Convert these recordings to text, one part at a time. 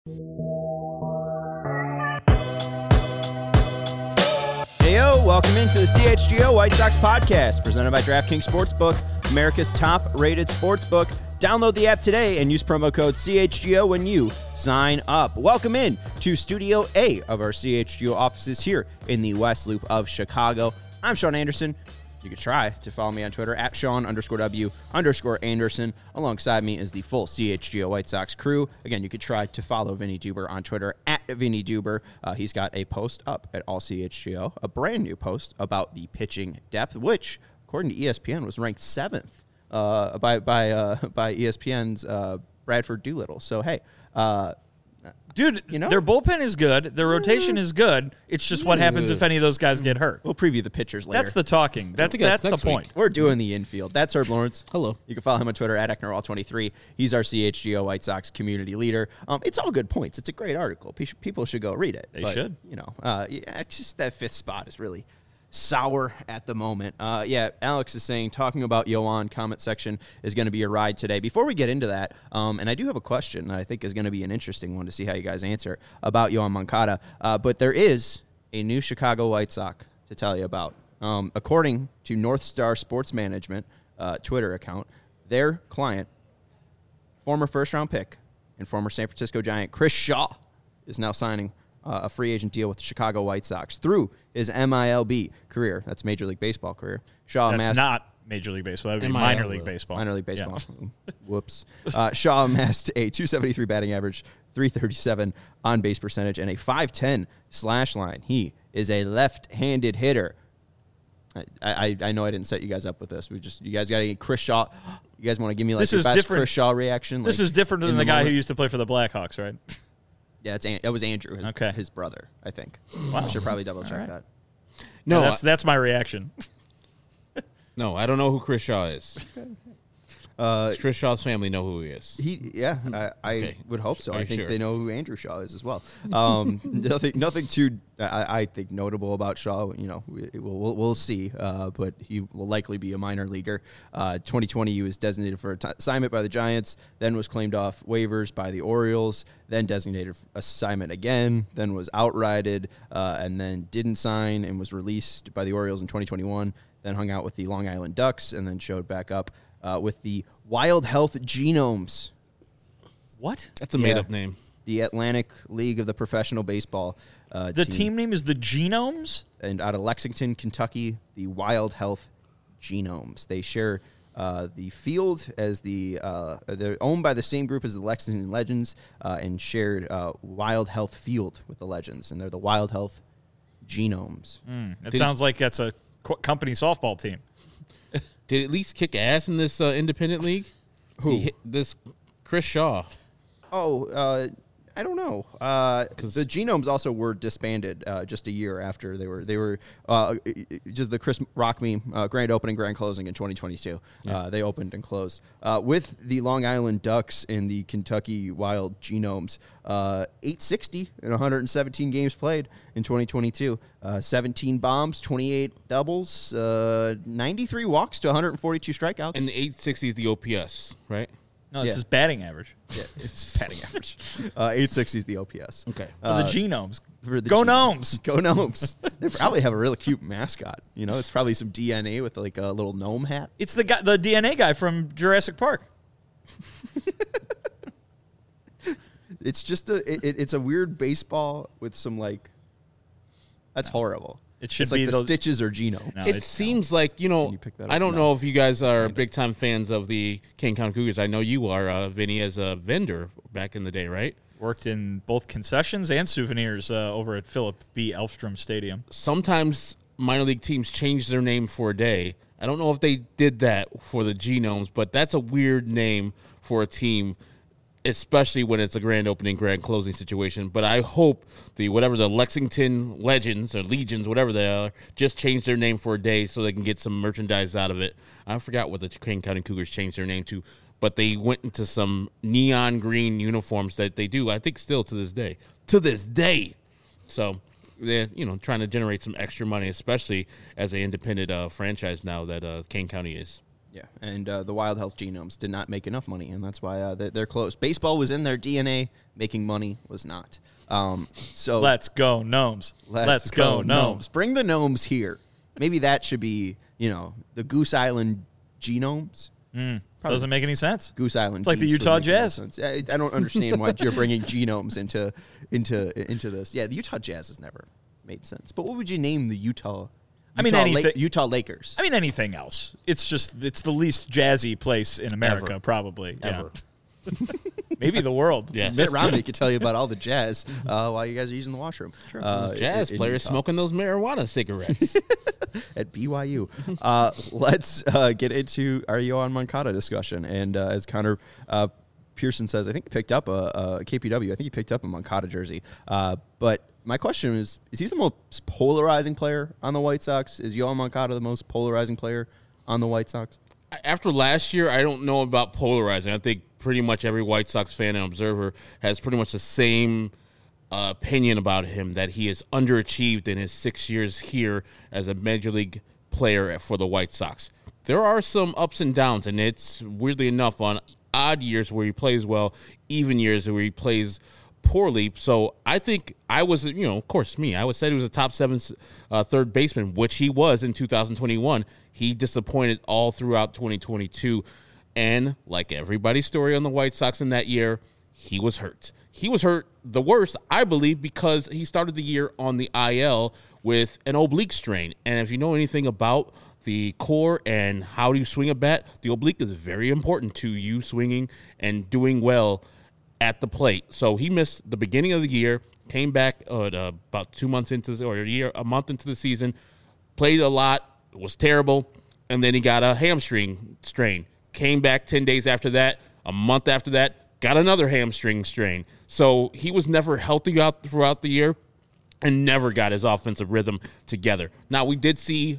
Heyo, welcome into the CHGO White Sox podcast, presented by DraftKings Sportsbook, America's top-rated sportsbook. Download the app today and use promo code CHGO when you sign up. Welcome in to Studio A of our CHGO offices here in the West Loop of Chicago. I'm Sean Anderson. You can try to follow me on Twitter at Sean_W_Anderson. Alongside me is the full CHGO White Sox crew. Again, you could try to follow Vinny Duber on Twitter at Vinny Duber. He's got a post up at All CHGO, a brand new post about the pitching depth, which, according to ESPN, was ranked 7th by ESPN's Bradford Doolittle. So, hey, dude, you know, their bullpen is good. Their rotation is good. It's just what happens if any of those guys get hurt. We'll preview the pitchers later. That's the talking. That's the point. We're doing the infield. That's Herb Lawrence. Hello. You can follow him on Twitter at Ecknerall23. He's our CHGO White Sox community leader. It's all good points. It's a great article. People should go read it. They should. You know, it's just that 5th spot is really sour at the moment. Alex is saying talking about Yoan comment section is going to be a ride today. Before we get into that, and I do have a question that I think is going to be an interesting one to see how you guys answer about Yoan Moncada, but there is a new Chicago White Sox to tell you about. According to North Star Sports Management Twitter account, their client, former first-round pick and former San Francisco Giant Chris Shaw, is now signing a free agent deal with the Chicago White Sox through his MILB career. That's Major League Baseball career. Shaw That's not Major League Baseball. That would be minor league baseball. Minor League Baseball. Yeah. Whoops. Shaw amassed a .273 batting average, .337 on-base percentage, and a .510 slash line. He is a left-handed hitter. I know I didn't set you guys up with this. You guys got any Chris Shaw? You guys want to give me like your best Chris Shaw reaction? This is different than the guy who used to play for the Blackhawks, right? Yeah, it was Andrew, his brother, I think. Wow. I should probably double-check that. No, yeah, that's my reaction. No, I don't know who Chris Shaw is. Chris Shaw's family know who he is. I would hope so. I think they know who Andrew Shaw is as well. Nothing too, I think, notable about Shaw. You know, we'll see, but he will likely be a minor leaguer. 2020, he was designated for assignment by the Giants, then was claimed off waivers by the Orioles, then designated for assignment again, then was outrighted, and then didn't sign and was released by the Orioles in 2021, then hung out with the Long Island Ducks, and then showed back up with the Wild Health Genomes. What? That's a made-up name. The Atlantic League of the Professional Baseball The team name is the Genomes? And out of Lexington, Kentucky, the Wild Health Genomes. They share the field as they're owned by the same group as the Lexington Legends and shared Wild Health Field with the Legends. And they're the Wild Health Genomes. That sounds like that's a company softball team. Did at least kick ass in this independent league? Who? This Chris Shaw. Oh, I don't know. The Genomes also were disbanded just a year after they were just the Chris Rock meme grand opening, grand closing in 2022. Yeah. They opened and closed with the Long Island Ducks and the Kentucky Wild Genomes. 860 in 117 games played in 2022. 17 bombs, 28 doubles, 93 walks to 142 strikeouts. And the 860 is the OPS, right? No, it's his batting average. Yeah, it's batting average. 860 is the OPS. Okay. The Genomes. Go Gnomes. Go Gnomes. They probably have a really cute mascot. You know, it's probably some DNA with like a little gnome hat. It's the DNA guy from Jurassic Park. It's just it's a weird baseball with some like. That's horrible. It should it's like be the Stitches or Geno. No, it seems like, I don't know if you guys are big-time fans of the Kane County Cougars. I know you are, Vinny, as a vendor back in the day, right? Worked in both concessions and souvenirs over at Philip B. Elfstrom Stadium. Sometimes minor league teams change their name for a day. I don't know if they did that for the Genomes, but that's a weird name for a team, especially when it's a grand opening, grand closing situation. But I hope the Lexington Legends or Legions, whatever they are, just change their name for a day so they can get some merchandise out of it. I forgot what the Kane County Cougars changed their name to, but they went into some neon green uniforms that they do, I think, still to this day. To this day. So they're, trying to generate some extra money, especially as an independent franchise now that Kane County is. Yeah, and the Wild Health Genomes did not make enough money, and that's why they're closed. Baseball was in their DNA. Making money was not. So let's go Gnomes. Let's go Gnomes. Bring the Gnomes here. Maybe that should be, the Goose Island Genomes. Doesn't make any sense. Goose Island. It's like the Geese Utah would make more Jazz. sense. I don't understand why you're bringing genomes into this. Yeah, the Utah Jazz has never made sense. But what would you name the Utah Utah Lakers? I mean, anything else. It's the least jazzy place in America, probably. Ever. Yeah. Maybe the world. Yes. Mitt Romney could tell you about all the jazz while you guys are using the washroom. Jazz in players Utah. smoking those marijuana cigarettes. At BYU. Let's get into our Yohan Moncada discussion. And as Connor Pearson says, I think he picked up a KPW. I think he picked up a Moncada jersey. But my question is he the most polarizing player on the White Sox? Is Yohan Moncada the most polarizing player on the White Sox? After last year, I don't know about polarizing. I think pretty much every White Sox fan and observer has pretty much the same opinion about him, that he has underachieved in his 6 years here as a Major League player for the White Sox. There are some ups and downs, and it's weirdly enough on odd years where he plays well, even years where he plays poorly. So I think I was, of course, I would say he was a top 7 third baseman, which he was in 2021. He disappointed all throughout 2022. And like everybody's story on the White Sox in that year, he was hurt. He was hurt the worst, I believe, because he started the year on the IL with an oblique strain. And if you know anything about the core and how do you swing a bat, the oblique is very important to you swinging and doing well at the plate. So he missed the beginning of the year, came back about 2 months into a month into the season, played a lot, was terrible, and then he got a hamstring strain. Came back 10 days after that, a month after that, got another hamstring strain. So he was never healthy throughout the year and never got his offensive rhythm together. Now, we did see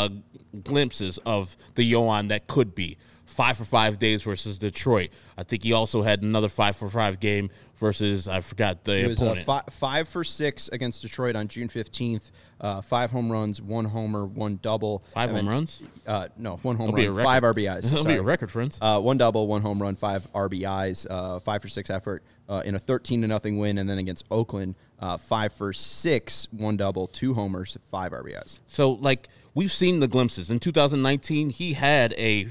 glimpses of the Yohan that could be. 5 for 5 days versus Detroit. I think he also had another 5 for 5 game versus, I forgot the opponent. It was 5 for 6 against Detroit on June 15th. 5 home runs, 1 homer, 1 double. 5 home runs? No, 1 home run, 5 RBIs. That'll be a record, friends. 1 double, 1 home run, 5 RBIs, 5 for 6 effort in a 13-0 win, and then against Oakland, 5 for 6, 1 double, 2 homers, 5 RBIs. So, we've seen the glimpses. In 2019, he had a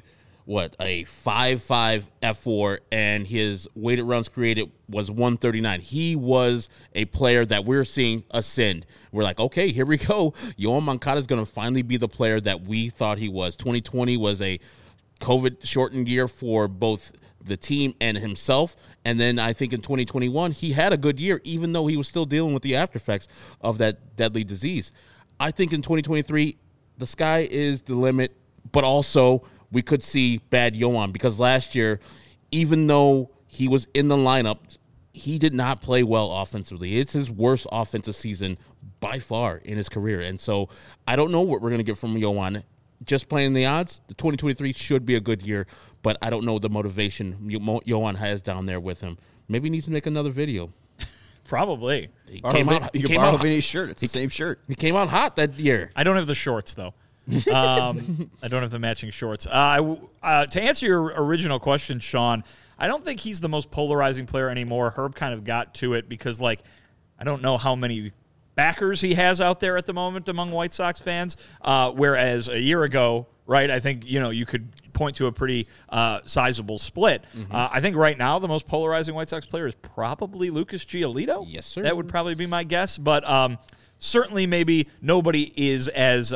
5.5 F4, and his weighted runs created was 139. He was a player that we're seeing ascend. We're like, okay, here we go. Yohan Moncada is going to finally be the player that we thought he was. 2020 was a COVID-shortened year for both the team and himself, and then I think in 2021, he had a good year, even though he was still dealing with the after effects of that deadly disease. I think in 2023, the sky is the limit, but also we could see bad Yohan, because last year, even though he was in the lineup, he did not play well offensively. It's his worst offensive season by far in his career. And so I don't know what we're going to get from Yohan. Just playing the odds, the 2023 should be a good year, but I don't know the motivation Yohan has down there with him. Maybe he needs to make another video. Probably. You can borrow Vinny's shirt. It's the same shirt. He came out hot that year. I don't have the shorts, though. I don't have the matching shorts. To answer your original question, Sean, I don't think he's the most polarizing player anymore. Herb kind of got to it because, I don't know how many backers he has out there at the moment among White Sox fans, whereas a year ago, right, I think, you could point to a pretty sizable split. Mm-hmm. I think right now the most polarizing White Sox player is probably Lucas Giolito. Yes, sir. That would probably be my guess, but certainly maybe nobody is as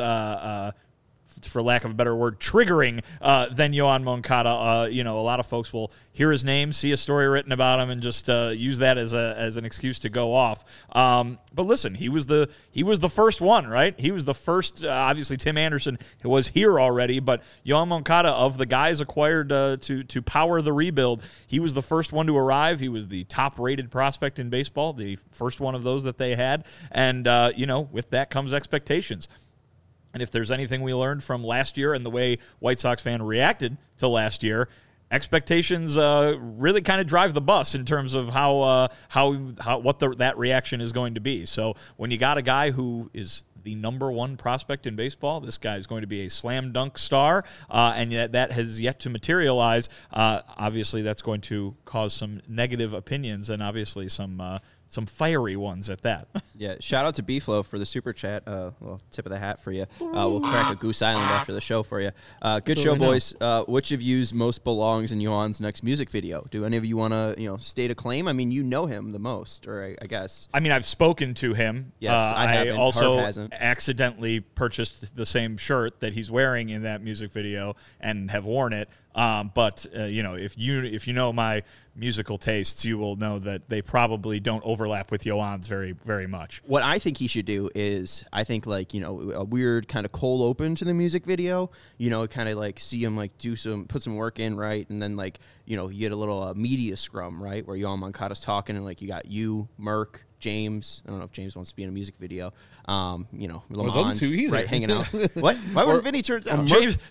for lack of a better word, triggering than Yohan Moncada. A lot of folks will hear his name, see a story written about him, and just use that as an excuse to go off. But listen, he was the first one, right? He was the first. Obviously, Tim Anderson was here already, but Yohan Moncada, of the guys acquired to power the rebuild, he was the first one to arrive. He was the top-rated prospect in baseball, the first one of those that they had, and with that comes expectations. And if there's anything we learned from last year and the way White Sox fan reacted to last year, expectations really kind of drive the bus in terms of that reaction is going to be. So when you got a guy who is the number one prospect in baseball, this guy is going to be a slam dunk star, and yet that has yet to materialize. Obviously, that's going to cause some negative opinions and obviously some fiery ones at that. Yeah, shout out to B-Flow for the super chat. Well, tip of the hat for you. We'll crack a Goose Island after the show for you. Good show, boys. Which of yous most belongs in Yohan's next music video? Do any of you want to, state a claim? I mean, you know him the most, or I guess. I mean, I've spoken to him. Yes, I haven't. I also Harp hasn't. accidentally purchased the same shirt that he's wearing in that music video and have worn it. But if you know my musical tastes, you will know that they probably don't overlap with Yohan's very, very much. What I think he should do is, I think a weird kind of cold open to the music video. Kind of like see him put some work in, right, and then you get a little media scrum, right, where Yohan Moncada's talking and you got you, Merck, James. I don't know if James wants to be in a music video. Lamont, right, hanging out. What? Why wouldn't Vinny turn down?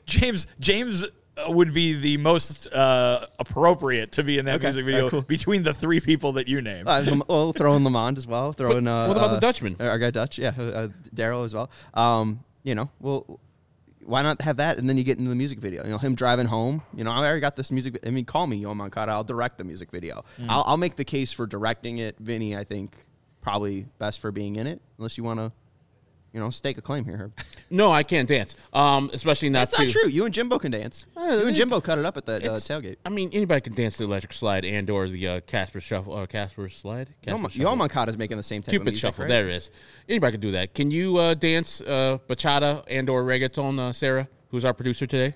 James would be the most appropriate to be in that music video between the three people that you named. We'll throw in Lamont as well. Throw in. What about the Dutchman? Our guy Dutch, yeah, Daryl as well. Well, why not have that, and then you get into the music video? Him driving home. I already got this music. I mean, call me Yohan Moncada. I'll direct the music video. I'll make the case for directing it. Vinny, I think, probably best for being in it, unless you want to. Stake a claim here, Herb. No, I can't dance. Especially not. That's not true. You and Jimbo can dance. You and Jimbo cut it up at the tailgate. I mean, anybody can dance the electric slide and or the Casper shuffle. Casper slide. Yohan Moncada's making the same type Cupid of music, shuffle. Right? There it is. Anybody can do that. Can you dance bachata and or reggaeton, Sarah, who's our producer today?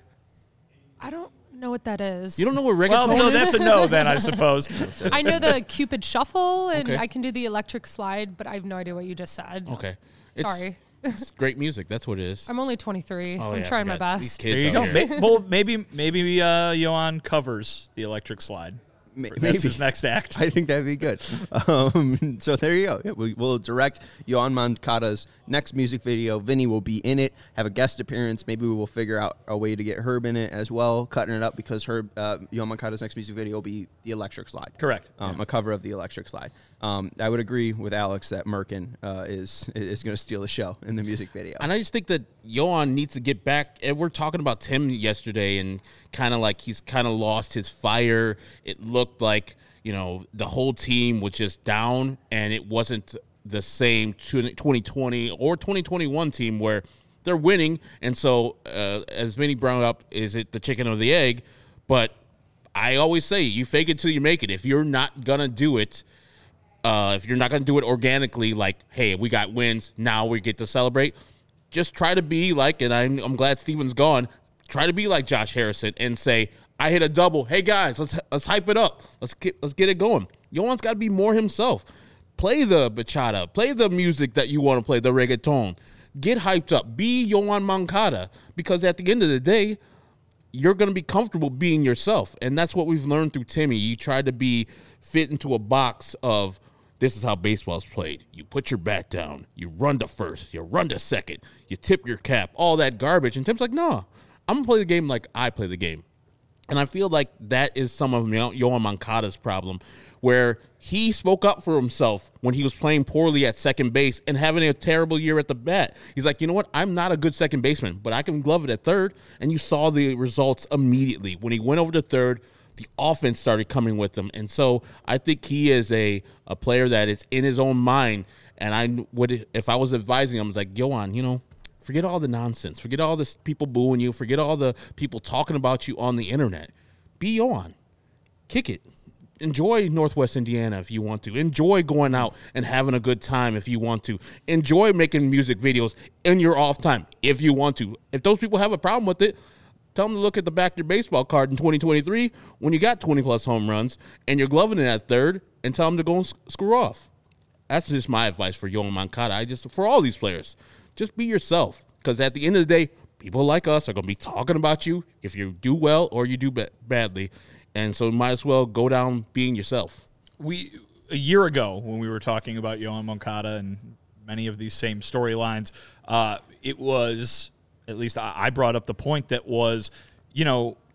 I don't know what that is. You don't know what reggaeton so is? that's a no then, I suppose. I know the Cupid shuffle, and Okay. I can do the electric slide, but I have no idea what you just said. Okay. Sorry. It's great music. That's what it is. I'm only 23. Oh, I'm yeah, trying my forgot. These best. kids There you out go. here. Well, maybe Yohan covers the electric slide. That's his next act. I think that'd be good. So there you go. Yeah, we'll direct Yohan Moncada's next music video. Vinny will be in it, have a guest appearance. Maybe we will figure out a way to get Herb in it as well, cutting it up because Yohan Moncada's next music video will be the Electric Slide. Correct. A cover of the Electric Slide. I would agree with Alex that Merkin is going to steal the show in the music video. And I just think that Yohan needs to get back. And we're talking about Tim yesterday and kind of like he's kind of lost his fire. It looked like, the whole team was just down and it wasn't the same 2020 or 2021 team where they're winning. And so, as Vinny brought up, is it the chicken or the egg? But I always say you fake it till you make it. If you're not going to do it, if you're not going to do it organically, like, hey, we got wins, now we get to celebrate, just try to be like, and I'm glad Steven's gone, try to be like Josh Harrison and say, I hit a double. Hey, guys, let's hype it up. Let's get it going. Yohan's got to be more himself. Play the bachata. Play the music that you want to play, the reggaeton. Get hyped up. Be Yohan Moncada, because at the end of the day, you're going to be comfortable being yourself. And that's what we've learned through Timmy. You try to be fit into a box of this is how baseball's played. You put your bat down. You run to first. You run to second. You tip your cap. All that garbage. And Tim's like, no, I'm going to play the game like I play the game. And I feel like that is some of Yohan Moncada's problem, where he spoke up for himself when he was playing poorly at second base and having a terrible year at the bat. He's like, you know what? I'm not a good second baseman, but I can glove it at third. And you saw the results immediately. When he went over to third, the offense started coming with him. And so I think he is a player that is in his own mind. And I would, if I was advising him, I was like, Yohan, forget all the nonsense. Forget all the people booing you. Forget all the people talking about you on the internet. Be Yohan. Kick it. Enjoy Northwest Indiana if you want to. Enjoy going out and having a good time if you want to. Enjoy making music videos in your off time if you want to. If those people have a problem with it, tell them to look at the back of your baseball card in 2023 when you got 20-plus home runs and you're gloving it at third, and tell them to go and screw off. That's just my advice for Yohan Moncada. For all these players, just be yourself, because at the end of the day, people like us are going to be talking about you if you do well or you do badly. And so you might as well go down being yourself. A year ago, when we were talking about Yohan Moncada and many of these same storylines, it was, at least I brought up the point that was,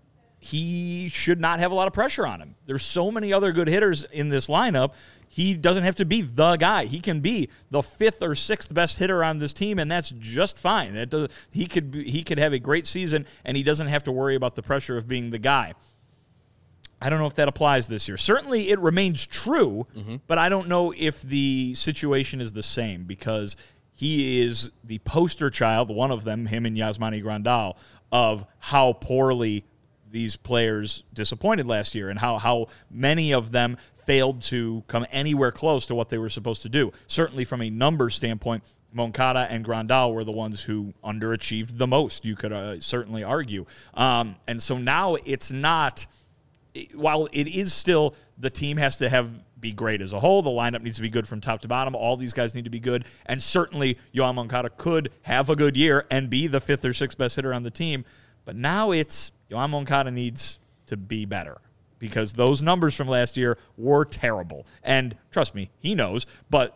he should not have a lot of pressure on him. There's so many other good hitters in this lineup. He doesn't have to be the guy. He can be the 5th or 6th best hitter on this team, and that's just fine. He could have a great season, and he doesn't have to worry about the pressure of being the guy. I don't know if that applies this year. Certainly it remains true, but I don't know if the situation is the same because he is the poster child, one of them, him and Yasmani Grandal, of how poorly these players disappointed last year and how many of them failed to come anywhere close to what they were supposed to do. Certainly from a numbers standpoint, Moncada and Grandal were the ones who underachieved the most, you could certainly argue. And so now it's not, while it is still the team has to be great as a whole, the lineup needs to be good from top to bottom, all these guys need to be good, and certainly Yoan Moncada could have a good year and be the 5th or 6th best hitter on the team, but now it's Yoan Moncada needs to be better because those numbers from last year were terrible. And trust me, he knows, but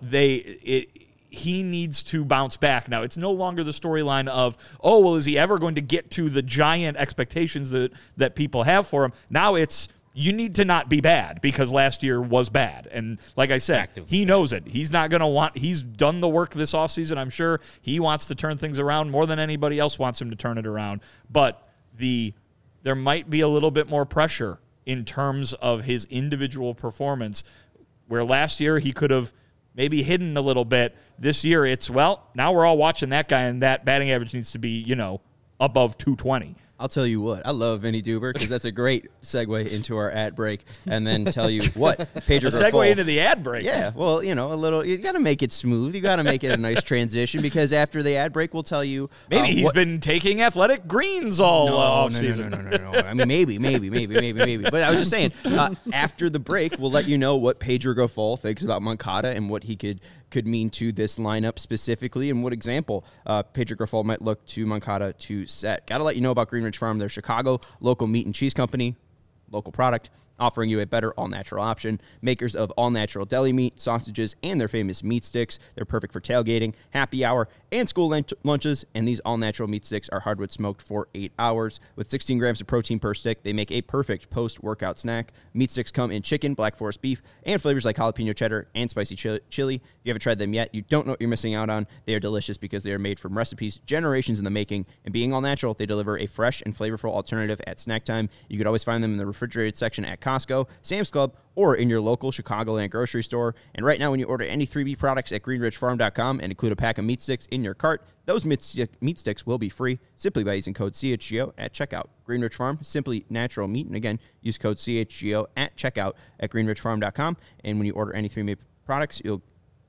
he needs to bounce back. Now, it's no longer the storyline of, oh, well, is he ever going to get to the giant expectations that people have for him? Now it's, you need to not be bad because last year was bad. And like I said, he knows it. He's not going to he's done the work this offseason. I'm sure he wants to turn things around more than anybody else wants him to turn it around. But there might be a little bit more pressure in terms of his individual performance, where last year he could have maybe hidden a little bit. This year it's, well, now we're all watching that guy, and that batting average needs to be, above 220. I'll tell you what, I love Vinny Duber because that's a great segue into our ad break, and then tell you what, Pedro Grifol. Segue into the ad break. Yeah, well, a little, you got to make it smooth. You got to make it a nice transition because after the ad break, we'll tell you. Maybe he's been taking athletic greens all offseason. No. I mean, maybe. But I was just saying, after the break, we'll let you know what Pedro Grifol thinks about Moncada and what he could mean to this lineup specifically and what example Pedro Grifol might look to Moncada to set. Got to let you know about Green Ridge Farm, their Chicago local meat and cheese company, local product, offering you a better all-natural option. Makers of all-natural deli meat, sausages, and their famous meat sticks. They're perfect for tailgating, happy hour, and school lunches, and these all-natural meat sticks are hardwood smoked for 8 hours. With 16 grams of protein per stick, they make a perfect post-workout snack. Meat sticks come in chicken, Black Forest beef, and flavors like jalapeno cheddar and spicy chili. If you haven't tried them yet, you don't know what you're missing out on. They are delicious because they are made from recipes generations in the making, and being all-natural, they deliver a fresh and flavorful alternative at snack time. You could always find them in the refrigerated section at Costco, Sam's Club, or in your local Chicagoland grocery store. And right now, when you order any 3B products at greenridgefarm.com and include a pack of meat sticks in your cart, those meat sticks will be free simply by using code CHGO at checkout. Greenridge Farm, simply natural meat. And again, use code CHGO at checkout at greenridgefarm.com. And when you order any 3B products, you'll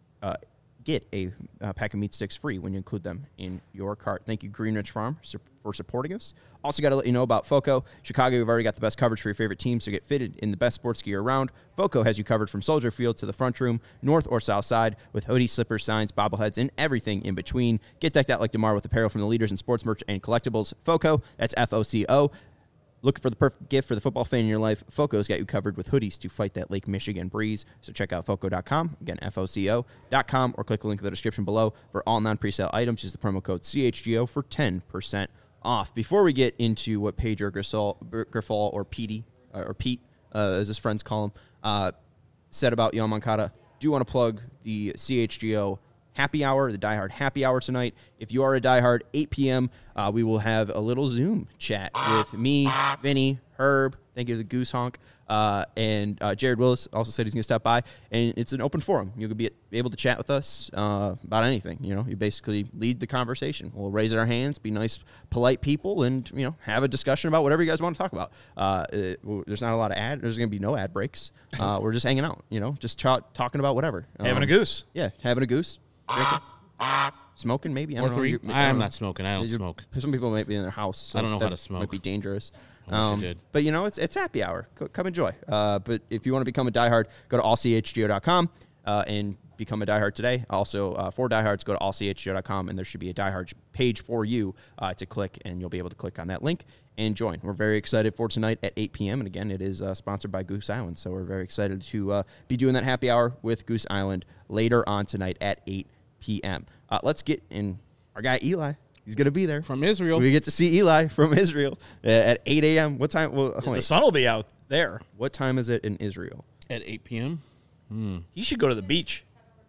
get a pack of meat sticks free when you include them in your cart. Thank you, Greenridge Farm, for supporting us. Also got to let you know about FOCO. Chicago, we've already got the best coverage for your favorite teams to get fitted in the best sports gear around. FOCO has you covered from Soldier Field to the front room, north or south side, with hoodies, slippers, signs, bobbleheads, and everything in between. Get decked out like DeMar with apparel from the leaders in sports merch and collectibles. FOCO, that's FOCO. Looking for the perfect gift for the football fan in your life? FOCO's got you covered with hoodies to fight that Lake Michigan breeze. So check out FOCO.com, again, FOCO.com, or click the link in the description below for all non-presale items. Use the promo code CHGO for 10% off. Before we get into what Pedro Grifol, or Petey, or Pete, as his friends call him, said about Yoan Moncada, do want to plug the CHGO happy hour, the Die Hard happy hour tonight. If you are a Die Hard, 8 p.m., we will have a little Zoom chat with me, Vinny, Herb, thank you to the Goose Honk, and Jared Willis also said he's going to stop by, and it's an open forum. You'll be able to chat with us about anything. You basically lead the conversation. We'll raise our hands, be nice, polite people, and have a discussion about whatever you guys want to talk about. There's not a lot of there's going to be no ad breaks. We're just hanging out, just talking about whatever. Having a goose. Yeah, having a goose. Drinking. Smoking, maybe. I don't know. I'm not smoking. I don't smoke. Some people might be in their house. So I don't know how to smoke. Might be dangerous. But it's happy hour. Come enjoy. But if you want to become a diehard, go to allchgo.com and become a diehard today. Also, for diehards, go to allchgo.com and there should be a diehard page for you to click, and you'll be able to click on that link and join. We're very excited for tonight at 8 p.m. And again, it is sponsored by Goose Island, so we're very excited to be doing that happy hour with Goose Island later on tonight at 8 p.m. Let's get in our guy Eli. He's going to be there. From Israel. We get to see Eli from Israel at 8 a.m. What time? Well, The sun will be out there. What time is it in Israel? At 8 p.m. He should go to the beach.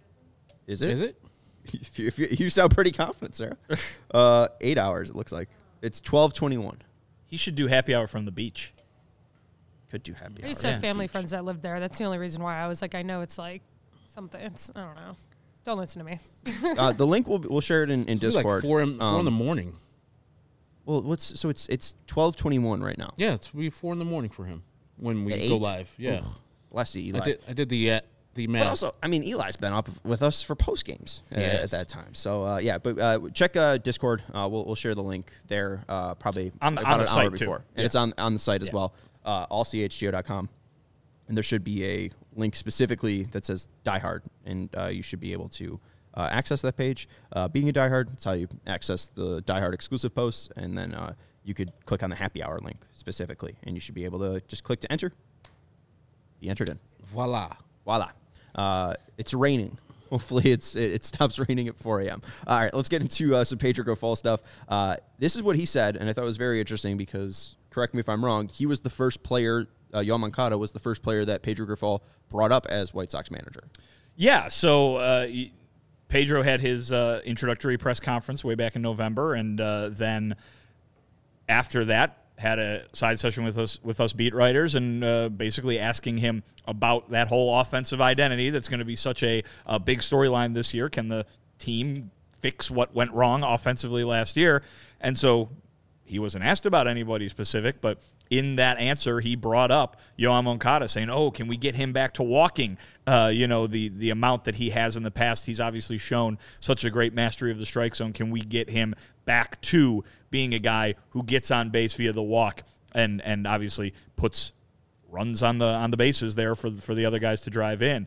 Is it? Is it? You sound pretty confident, Sarah. 8 hours, it looks like. It's 12:21. He should do happy hour from the beach. Could do happy I hour. used to have Yeah. family friends that lived there. That's the only reason why I was like, I know it's like something. It's I don't know. Don't listen to me. The link we'll share it in It's like Discord. 4 in the morning. Well, it's 12:21 right now. Yeah, it's 4 in the morning for him when we At go 8? live. Yeah. Bless you, Eli. I did the math. But also, I mean, Eli's been up with us for post games at Yes. that time. So check Discord. We'll share the link there. Probably On the about an site, hour too. before, and Yeah. it's on the site as Yeah. well. Allchgo.com, and there should be a link specifically that says Die Hard, and you should be able to access that page. Being a Die Hard, that's how you access the Die Hard exclusive posts, and then you could click on the happy hour link specifically, and you should be able to just click to enter. Be entered in. Voila. Voila. It's raining. Hopefully it stops raining at 4 a.m. All right, let's get into some Pedro Grifol stuff. This is what he said, and I thought it was very interesting because, correct me if I'm wrong, he was the first player, Yoan Moncada was the first player that Pedro Grifol brought up as White Sox manager. Yeah, so Pedro had his introductory press conference way back in November, and then after that had a side session with us beat writers, and basically asking him about that whole offensive identity that's going to be such a big storyline this year. Can the team fix what went wrong offensively last year? And so he wasn't asked about anybody specific, but in that answer, he brought up Yoan Moncada, saying, "Oh, can we get him back to walking? The amount that he has in the past. He's obviously shown such a great mastery of the strike zone. Can we get him back to being a guy who gets on base via the walk and obviously puts runs on the bases there for the other guys to drive in?"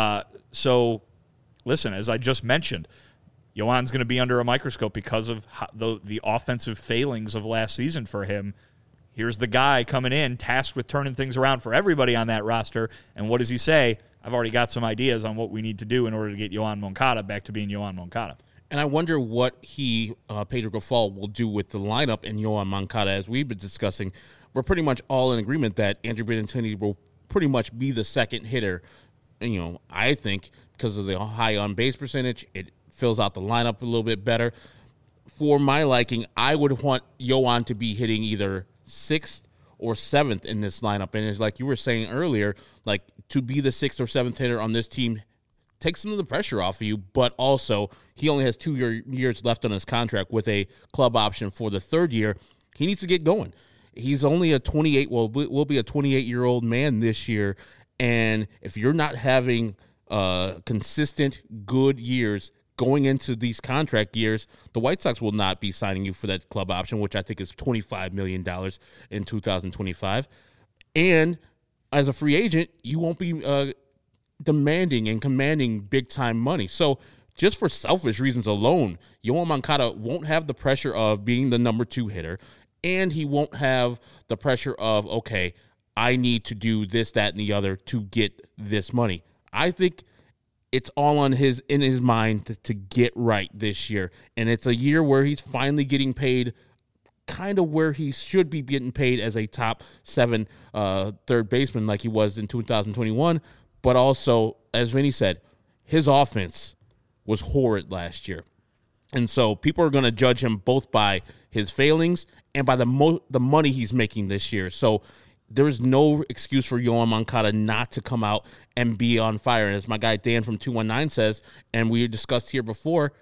So, listen, as I just mentioned, Yoan's going to be under a microscope because of the offensive failings of last season for him. Here's the guy coming in, tasked with turning things around for everybody on that roster. And what does he say? I've already got some ideas on what we need to do in order to get Yoan Moncada back to being Yoan Moncada. And I wonder what Pedro Grifol, will do with the lineup and Yoan Moncada. As we've been discussing, we're pretty much all in agreement that Andrew Benintendi will pretty much be the second hitter. And, I think because of the high on-base percentage, it fills out the lineup a little bit better. For my liking, I would want Yoan to be hitting either 6th or 7th in this lineup. And it's like you were saying earlier, like to be the 6th or 7th hitter on this team takes some of the pressure off of you, but also he only has 2 years left on his contract with a club option for the 3rd year. He needs to get going. He's only will be a 28-year-old man this year, and if you're not having consistent good years going into these contract years, the White Sox will not be signing you for that club option, which I think is $25 million in 2025. And as a free agent, you won't be demanding and commanding big-time money. So just for selfish reasons alone, Yoan Moncada won't have the pressure of being the number 2 hitter, and he won't have the pressure of, okay, I need to do this, that, and the other to get this money. I think it's all in his mind to get right this year. And it's a year where he's finally getting paid kind of where he should be getting paid as a top 7 third baseman like he was in 2021. But also, as Vinny said, his offense was horrid last year. And so people are going to judge him both by his failings and by the money he's making this year. So there is no excuse for Yoan Moncada not to come out and be on fire. And as my guy Dan from 219 says, and we discussed here before,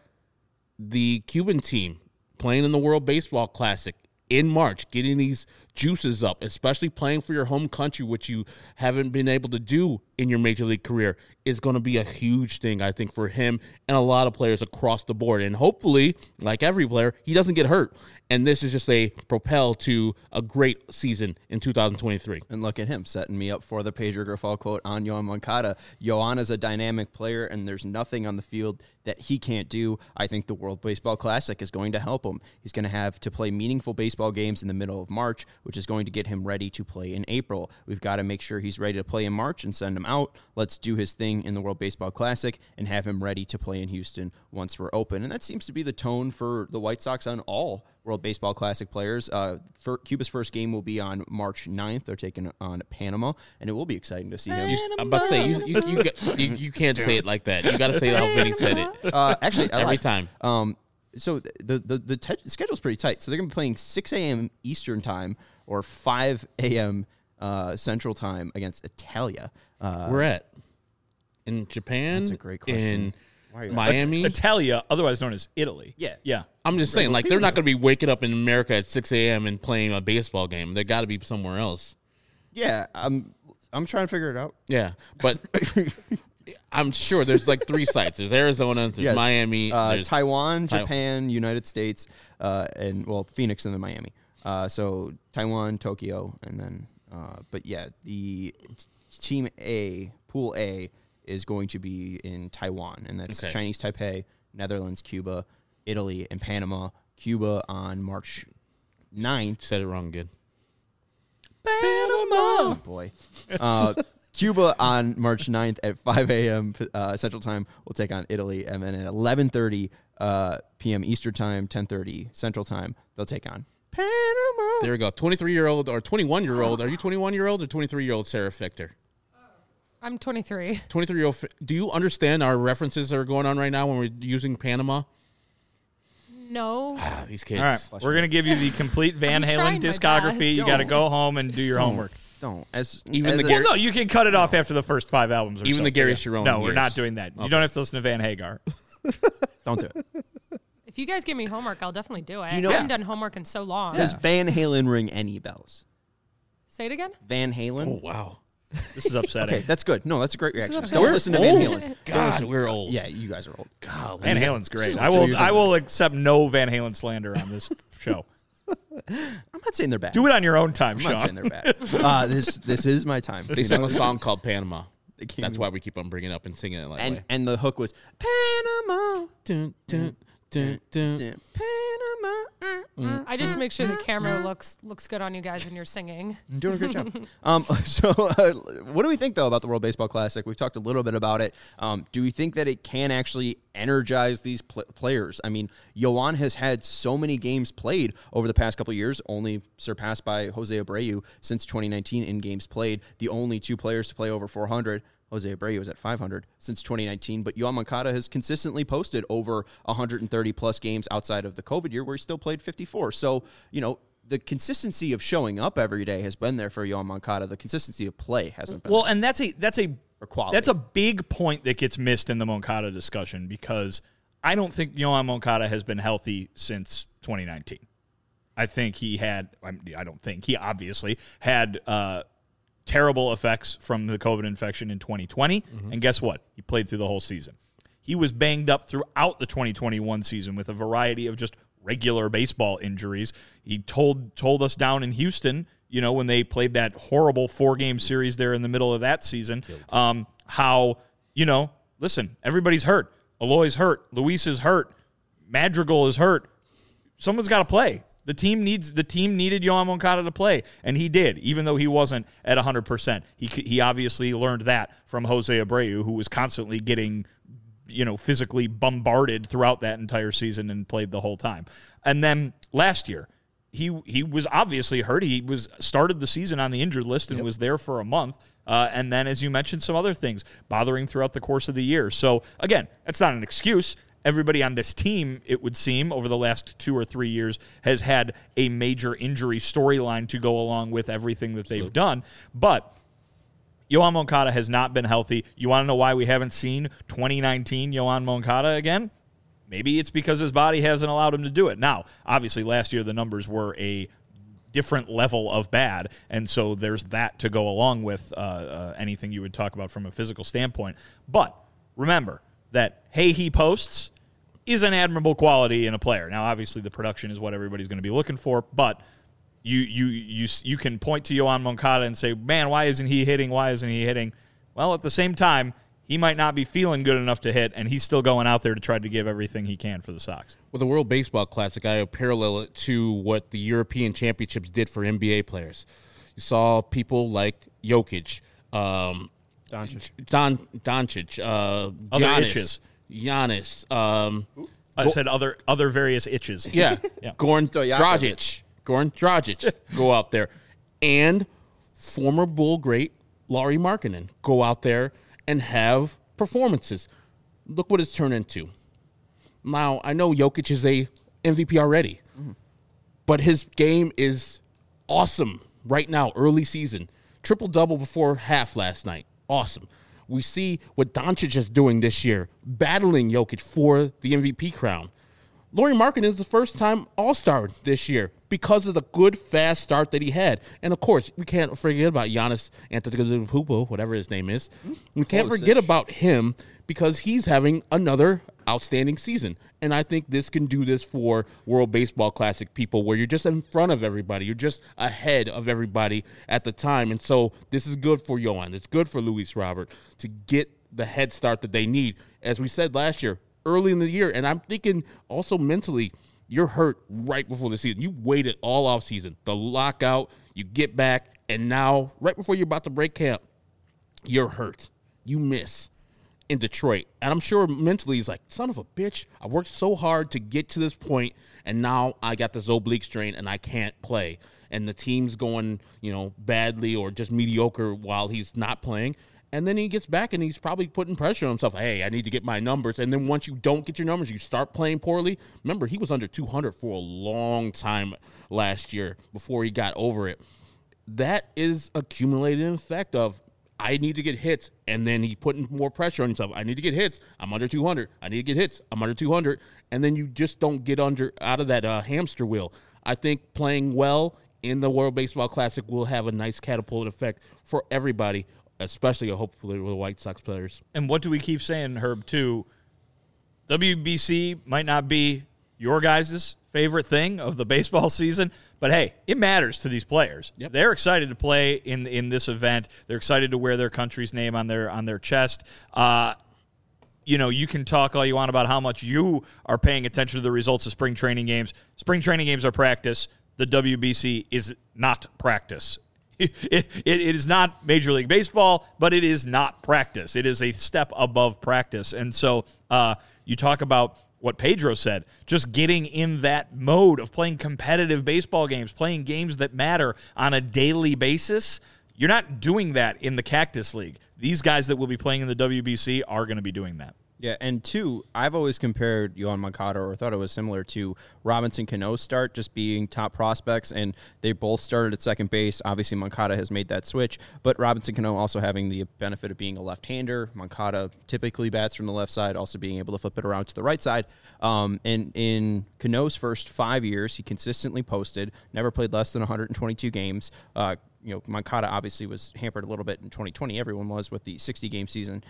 the Cuban team playing in the World Baseball Classic in March, getting these juices up, especially playing for your home country, which you haven't been able to do in your major league career, is going to be a huge thing, I think, for him and a lot of players across the board. And hopefully, like every player, he doesn't get hurt. And this is just a propel to a great season in 2023. And look at him setting me up for the Pedro Grifol quote on Yoan Moncada. Yoan is a dynamic player, and there's nothing on the field that he can't do. I think the World Baseball Classic is going to help him. He's going to have to play meaningful baseball games in the middle of March, which is going to get him ready to play in April. We've got to make sure he's ready to play in March and send him out. Let's do his thing pitching in the World Baseball Classic and have him ready to play in Houston once we're open. And that seems to be the tone for the White Sox on all World Baseball Classic players. Cuba's first game will be on March 9th. They're taking on Panama, and it will be exciting to see him. I'm about to say, you can't say it like that. You got to say it how Vinny said it. Actually, every time. So the schedule's pretty tight. So they're going to be playing 6 a.m. Eastern time or 5 a.m. Central time against Italia. We're at in Japan. That's a great question. In Miami, Italia, otherwise known as Italy. Yeah. I'm just saying, like, they're not going to be waking up in America at 6 a.m. and playing a baseball game. They got to be somewhere else. Yeah, I'm trying to figure it out. Yeah, but I'm sure there's like 3 sites. There's Arizona, there's Miami, there's Taiwan, Japan, United States, and Phoenix and then Miami. So Taiwan, Tokyo, and then but yeah, the Team A, Pool A, is going to be in Taiwan, and that's Chinese Taipei, Netherlands, Cuba, Italy, and Panama. Cuba on March 9th. Said it wrong again. Panama! Oh, boy. Cuba on March 9th at 5 a.m. Central Time will take on Italy, and then at 11:30 p.m. Eastern Time, 10:30 Central Time, they'll take on Panama. There we go. 23-year-old or 21-year-old. Are you 21-year-old or 23-year-old Sarah Fichter? I'm 23. 23-year-old. Do you understand our references that are going on right now when we're using Panama? No. These kids. All right, we're going to give you the complete Van I'm Halen trying my discography. best. You got to go home and do your homework. Don't. Well, no, you can cut it off after the first 5 albums. Or Even so. the Gary Sharon No, we're years. not doing that. You don't have to listen to Van Hagar. Don't do it. If you guys give me homework, I'll definitely do it. you know- I haven't done homework in so long. Does Van Halen ring any bells? Say it again? Van Halen? Oh, wow. This is upsetting. Okay, that's good. No, that's a great reaction. We're Don't listen to Van old. Halen. God, we're old. Yeah, you guys are old. God, Van Halen's great. Just I 2 will. years I ago. will accept no Van Halen slander on this show. I'm not saying they're bad. Do it on your own time, I'm not saying Sean. they're bad. This is my time. They sang a song called Panama. They came That's why we keep on bringing it up and singing it that way. and the hook was Panama. Dun, dun, dun, dun. Panama. I just make sure the camera looks good on you guys when you're singing. I'm doing a great job. So what do we think, though, about the World Baseball Classic? We've talked a little bit about it. Do we think that it can actually energize these players? I mean, Yoan has had so many games played over the past couple of years, only surpassed by Jose Abreu since 2019 in games played. The only 2 players to play over 400. Jose Abreu is at 500 since 2019, but Yoan Moncada has consistently posted over 130-plus games outside of the COVID year where he still played 54. So, the consistency of showing up every day has been there for Yoan Moncada. The consistency of play hasn't been. Well, and that's a quality. That's a big point that gets missed in the Moncada discussion because I don't think Yoan Moncada has been healthy since 2019. I think he had. I don't think he obviously had. Terrible effects from the COVID infection in 2020. And guess what? He played through the whole season. He was banged up throughout the 2021 season with a variety of just regular baseball injuries. He told us down in Houston, when they played that horrible 4-game series there in the middle of that season, how, listen, everybody's hurt. Eloy's hurt. Luis is hurt. Madrigal is hurt. Someone's got to play. The team needed Yoan Moncada to play, and he did, even though he wasn't at 100%. He obviously learned that from Jose Abreu, who was constantly getting, physically bombarded throughout that entire season and played the whole time. And then last year, he was obviously hurt. He started the season on the injured list and was there for a month. And then, as you mentioned, some other things bothering throughout the course of the year. So again, that's not an excuse. Everybody on this team, it would seem, over the last 2 or 3 years has had a major injury storyline to go along with everything that they've done. But Yoan Moncada has not been healthy. You want to know why we haven't seen 2019 Yoan Moncada again? Maybe it's because his body hasn't allowed him to do it. Now, obviously, last year the numbers were a different level of bad, and so there's that to go along with anything you would talk about from a physical standpoint. But remember that he posts is an admirable quality in a player. Now, obviously, the production is what everybody's going to be looking for, but you can point to Yoan Moncada and say, man, why isn't he hitting? Why isn't he hitting? Well, at the same time, he might not be feeling good enough to hit, and he's still going out there to try to give everything he can for the Sox. With the World Baseball Classic, I parallel it to what the European Championships did for NBA players. You saw people like Jokic, Doncic, Other itches. Giannis, I said other various itches. yeah, Yeah. Goran Stojakovic. Dragic go out there, and former Bull great Lauri Markkanen go out there and have performances. Look what it's turned into. Now, I know Jokic is a MVP already, but his game is awesome right now, early season. Triple-double before half last night. Awesome. We see what Doncic is doing this year, battling Jokic for the MVP crown. Lauri Markkanen is the first-time All-Star this year because of the good, fast start that he had. And, of course, we can't forget about Giannis Antetokounmpo, whatever his name is. We can't forget about him because he's having another outstanding season. And I think this can do this for World Baseball Classic people where you're just in front of everybody. You're just ahead of everybody at the time. And so this is good for Yohan. It's good for Luis Robert to get the head start that they need. As we said last year, early in the year, and I'm thinking also mentally, you're hurt right before the season. You waited all off season, the lockout, you get back, and now right before you're about to break camp, you're hurt. You miss in Detroit. And I'm sure mentally he's like, son of a bitch, I worked so hard to get to this point, and now I got this oblique strain and I can't play. And the team's going, badly or just mediocre while he's not playing. And then he gets back and he's probably putting pressure on himself. Hey, I need to get my numbers. And then once you don't get your numbers, you start playing poorly. Remember, he was under 200 for a long time last year before he got over it. That is accumulated effect of I need to get hits, and then he putting more pressure on himself. I need to get hits. I'm under 200. I need to get hits. I'm under 200. And then you just don't get out of that hamster wheel. I think playing well in the World Baseball Classic will have a nice catapult effect for everybody, especially hopefully with the White Sox players. And what do we keep saying, Herb, too? WBC might not be your guys' favorite thing of the baseball season, but hey, it matters to these players. Yep. They're excited to play in this event. They're excited to wear their country's name on their chest. You can talk all you want about how much you are paying attention to the results of spring training games. Spring training games are practice. The WBC is not practice. It is not Major League Baseball, but it is not practice. It is a step above practice. And so you talk about what Pedro said, just getting in that mode of playing competitive baseball games, playing games that matter on a daily basis. You're not doing that in the Cactus League. These guys that will be playing in the WBC are going to be doing that. Yeah, and two, I've always compared Yohan Moncada, or thought it was similar to Robinson Cano's start, just being top prospects, and they both started at second base. Obviously, Moncada has made that switch, but Robinson Cano also having the benefit of being a left-hander. Moncada typically bats from the left side, also being able to flip it around to the right side. And in Cano's first 5 years, he consistently posted, never played less than 122 games. Moncada obviously was hampered a little bit in 2020. Everyone was with the 60-game season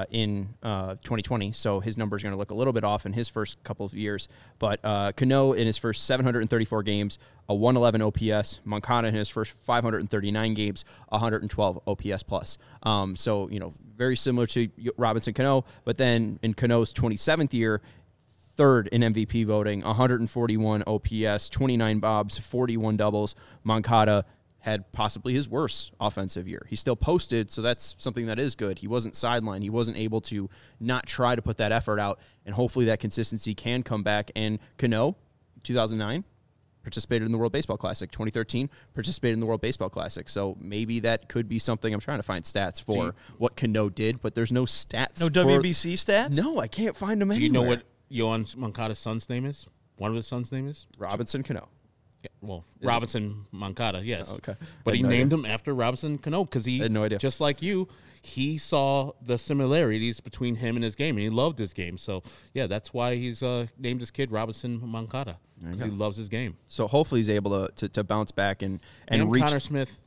in 2020. So his numbers are going to look a little bit off in his first couple of years. But Cano in his first 734 games, a 111 OPS. Moncada in his first 539 games, 112 OPS plus. So very similar to Robinson Cano. But then in Cano's 27th year, third in MVP voting, 141 OPS, 29 bobs, 41 doubles. Moncada had possibly his worst offensive year. He still posted, so that's something that is good. He wasn't sidelined. He wasn't able to not try to put that effort out, and hopefully that consistency can come back. And Cano, 2009, participated in the World Baseball Classic. 2013, participated in the World Baseball Classic. So maybe that could be something. I'm trying to find stats for what Cano did, but there's no stats. No WBC stats? No, I can't find them Do anywhere. you know what Yohan Moncada's son's name is? One of his son's name is? Robinson Cano. Yeah, well, Robinson Moncada, yes. Oh, okay. But he No named idea. him after Robinson Cano because he, had no idea. just like you, he saw the similarities between him and his game, and he loved his game. So, yeah, that's why he's named his kid Robinson Moncada, because he loves his game. So hopefully he's able to bounce back and And reach Connor Smith.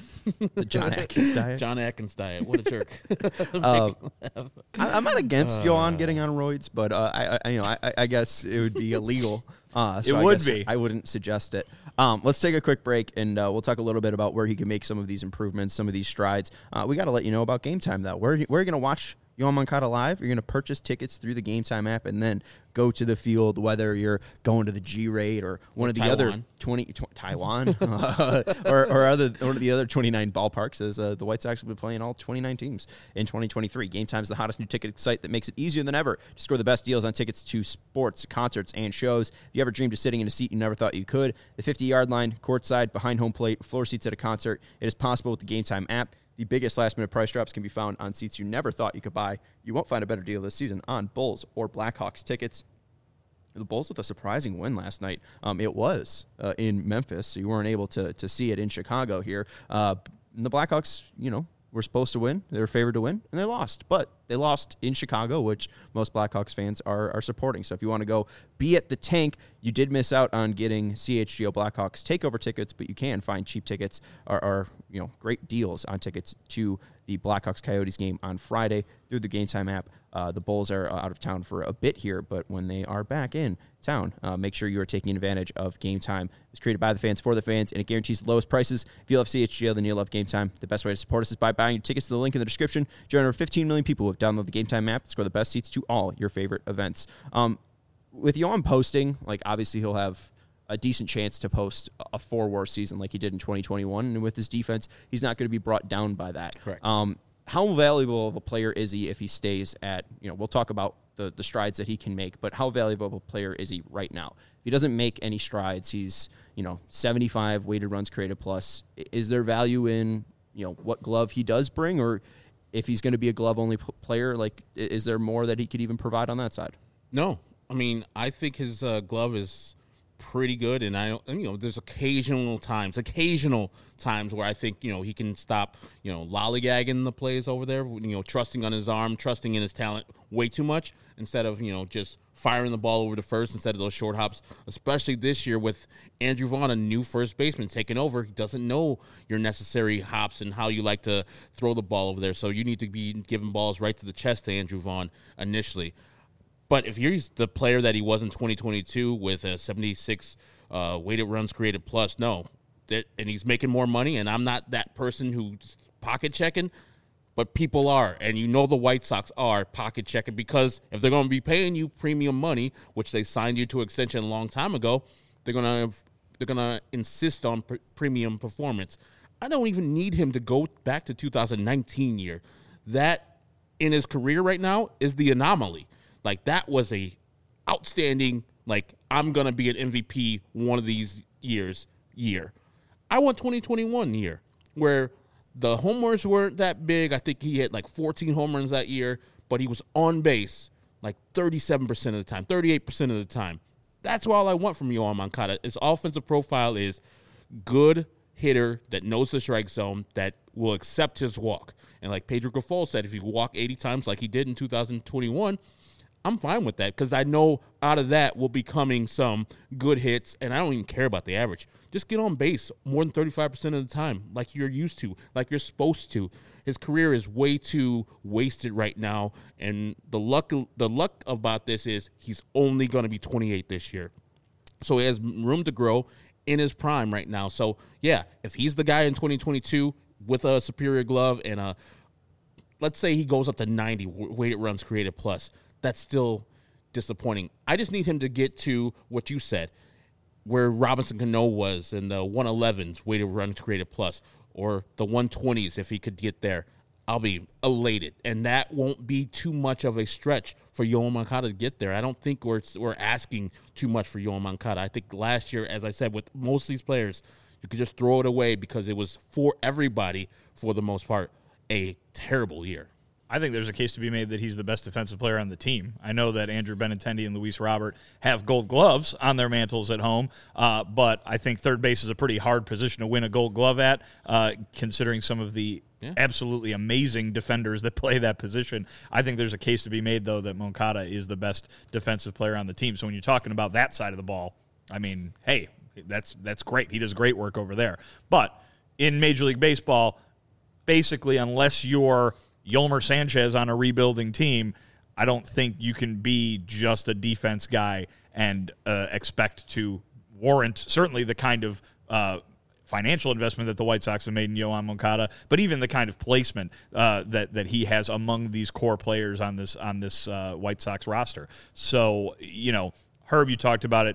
the John Atkins diet. John Atkins diet. What a jerk. I'm not against Yohan getting on roids, but I guess it would be illegal. It would be. I wouldn't suggest it. Let's take a quick break, and we'll talk a little bit about where he can make some of these improvements, some of these strides. We got to let you know about Game Time, though. Where are you going to watch Yoan Moncada Live, you're going to purchase tickets through the Game Time app and then go to the field, whether you're going to the G-Rate or one of the other 20 Taiwan or one of the other 29 ballparks, as the White Sox will be playing all 29 teams in 2023. Game Time is the hottest new ticket site that makes it easier than ever to score the best deals on tickets to sports, concerts, and shows. If you ever dreamed of sitting in a seat you never thought you could, the 50-yard line, courtside, behind home plate, floor seats at a concert, it is possible with the Game Time app. The biggest last-minute price drops can be found on seats you never thought you could buy. You won't find a better deal this season on Bulls or Blackhawks tickets. The Bulls with a surprising win last night. It was in Memphis, so you weren't able to see it in Chicago here. And the Blackhawks, were supposed to win. They were favored to win, and they lost. But they lost in Chicago, which most Blackhawks fans are supporting. So if you want to go be at the Tank, you did miss out on getting CHGO Blackhawks takeover tickets, but you can find cheap tickets or great deals on tickets to the Blackhawks Coyotes game on Friday through the Game Time app. The Bulls are out of town for a bit here, but when they are back in town, make sure you are taking advantage of Game Time. It's created by the fans for the fans, and it guarantees the lowest prices. If you love CHGO, then you'll love Game Time. The best way to support us is by buying your tickets to the link in the description. Join over 15 million people who have downloaded the Game Time app and score the best seats to all your favorite events. With Yoan posting, obviously he'll have a decent chance to post a 4-WAR season like he did in 2021, and with his defense, he's not going to be brought down by that. Correct. How valuable of a player is he if he stays at, we'll talk about the strides that he can make, but how valuable of a player is he right now? If he doesn't make any strides, he's, 75 weighted runs created plus. Is there value in, what glove he does bring, or if he's going to be a glove-only player, is there more that he could even provide on that side? No. I mean, I think his glove is pretty good, and there's occasional times where I think he can stop lollygagging the plays over there, trusting on his arm, trusting in his talent way too much instead of just firing the ball over to first instead of those short hops. Especially this year with Andrew Vaughn, a new first baseman taking over, he doesn't know your necessary hops and how you like to throw the ball over there. So you need to be giving balls right to the chest to Andrew Vaughn initially. But if he's the player that he was in 2022 with a 76 weighted runs created plus, and he's making more money, and I'm not that person who's pocket checking, but people are, and the White Sox are pocket checking because if they're going to be paying you premium money, which they signed you to extension a long time ago, they're going to insist on premium performance. I don't even need him to go back to 2019 year. That in his career right now is the anomaly. That was a outstanding, I'm going to be an MVP one of these year. I want 2021 year where the homers weren't that big. I think he hit 14 home runs that year, but he was on base 37% of the time, 38% of the time. That's all I want from Yoan Moncada. His offensive profile is good hitter that knows the strike zone, that will accept his walk. And like Pedro Grifol said, if you walk 80 times like he did in 2021, I'm fine with that because I know out of that will be coming some good hits, and I don't even care about the average. Just get on base more than 35% of the time like you're used to, like you're supposed to. His career is way too wasted right now, and the luck about this is he's only going to be 28 this year. So he has room to grow in his prime right now. So, yeah, if he's the guy in 2022 with a superior glove and let's say he goes up to 90 weighted runs created plus, that's still disappointing. I just need him to get to what you said, where Robinson Cano was in the 111s weighted runs created plus, or the 120s if he could get there. I'll be elated, and that won't be too much of a stretch for Yoan Moncada to get there. I don't think we're asking too much for Yoan Moncada. I think last year, as I said, with most of these players, you could just throw it away because it was for everybody, for the most part, a terrible year. I think there's a case to be made that he's the best defensive player on the team. I know that Andrew Benintendi and Luis Robert have gold gloves on their mantles at home, but I think third base is a pretty hard position to win a gold glove at, considering some of the absolutely amazing defenders that play that position. I think there's a case to be made, though, that Moncada is the best defensive player on the team. So when you're talking about that side of the ball, I mean, hey, that's great. He does great work over there. But in Major League Baseball, basically, unless you're Yolmer Sanchez on a rebuilding team, I don't think you can be just a defense guy and expect to warrant certainly the kind of financial investment that the White Sox have made in Yoan Moncada, but even the kind of placement that he has among these core players on this White Sox roster. So, Herb, you talked about it.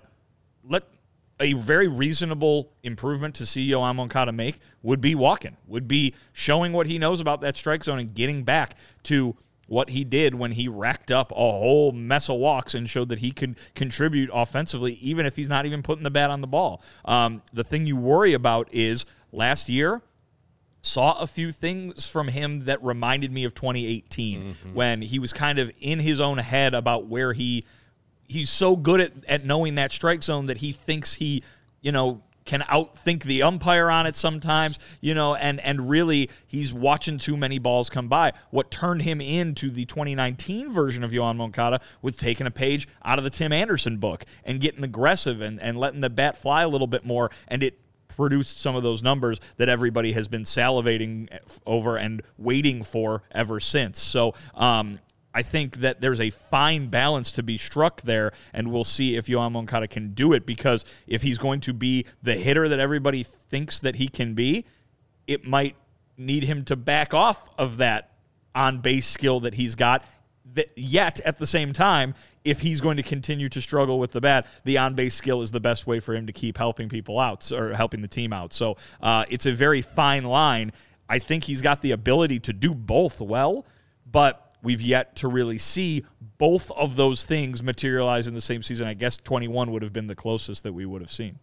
A very reasonable improvement to see Yoan Moncada make would be walking, would be showing what he knows about that strike zone and getting back to what he did when he racked up a whole mess of walks and showed that he could contribute offensively, even if he's not even putting the bat on the ball. The thing you worry about is last year, saw a few things from him that reminded me of 2018 when he was kind of in his own head about where he's so good at knowing that strike zone that he thinks he, can outthink the umpire on it sometimes, and really he's watching too many balls come by. What turned him into the 2019 version of Yoan Moncada was taking a page out of the Tim Anderson book and getting aggressive and letting the bat fly a little bit more, and it produced some of those numbers that everybody has been salivating over and waiting for ever since. So, I think that there's a fine balance to be struck there, and we'll see if Yoan Moncada can do it, because if he's going to be the hitter that everybody thinks that he can be, it might need him to back off of that on-base skill that he's got. Yet, at the same time, if he's going to continue to struggle with the bat, the on-base skill is the best way for him to keep helping people out or helping the team out. So it's a very fine line. I think he's got the ability to do both well, but we've yet to really see both of those things materialize in the same season. I guess 21 would have been the closest that we would have seen.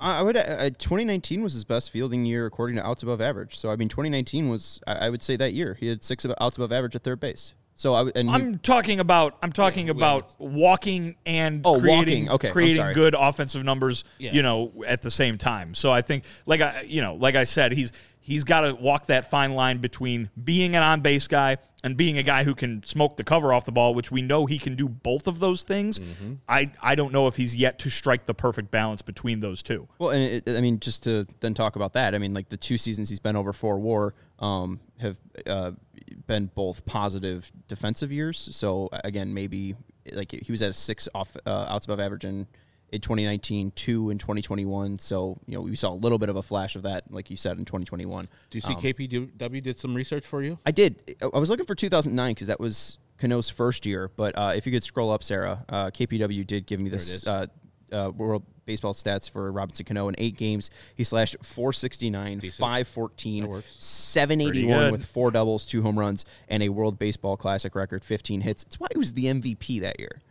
2019 was his best fielding year according to outs above average. So, 2019 was, I would say, that year. He had 6 outs above average at third base. So I'm talking about walking and creating good offensive numbers, at the same time. So I think, like I said, he's got to walk that fine line between being an on-base guy and being a guy who can smoke the cover off the ball, which we know he can do both of those things. I don't know if he's yet to strike the perfect balance between those two. Well, and just to then talk about that, the 2 seasons he's been over 4 WAR have been both positive defensive years. So again, maybe he was at a 6 outs above average in 2019, 2 in 2021. So, we saw a little bit of a flash of that, like you said, in 2021. Do you see KPW did some research for you? I did. I was looking for 2009 because that was Cano's first year. But if you could scroll up, Sarah, KPW did give me this World Baseball stats for Robinson Cano. In 8 games, he slashed .469, .514, .781 with 4 doubles, 2 home runs, and a World Baseball Classic record, 15 hits. It's why he was the MVP that year.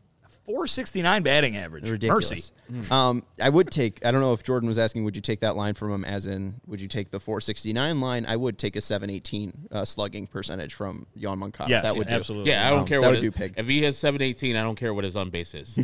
.469 batting average. Ridiculous. Mercy. I would take, I don't know if Jordan was asking, would you take that line from him, as in, would you take the .469 line? I would take a .718 slugging percentage from Yoan Moncada. Yes, that would absolutely. Do. Yeah, I don't care what what do pig. If he has .718, I don't care what his on base is.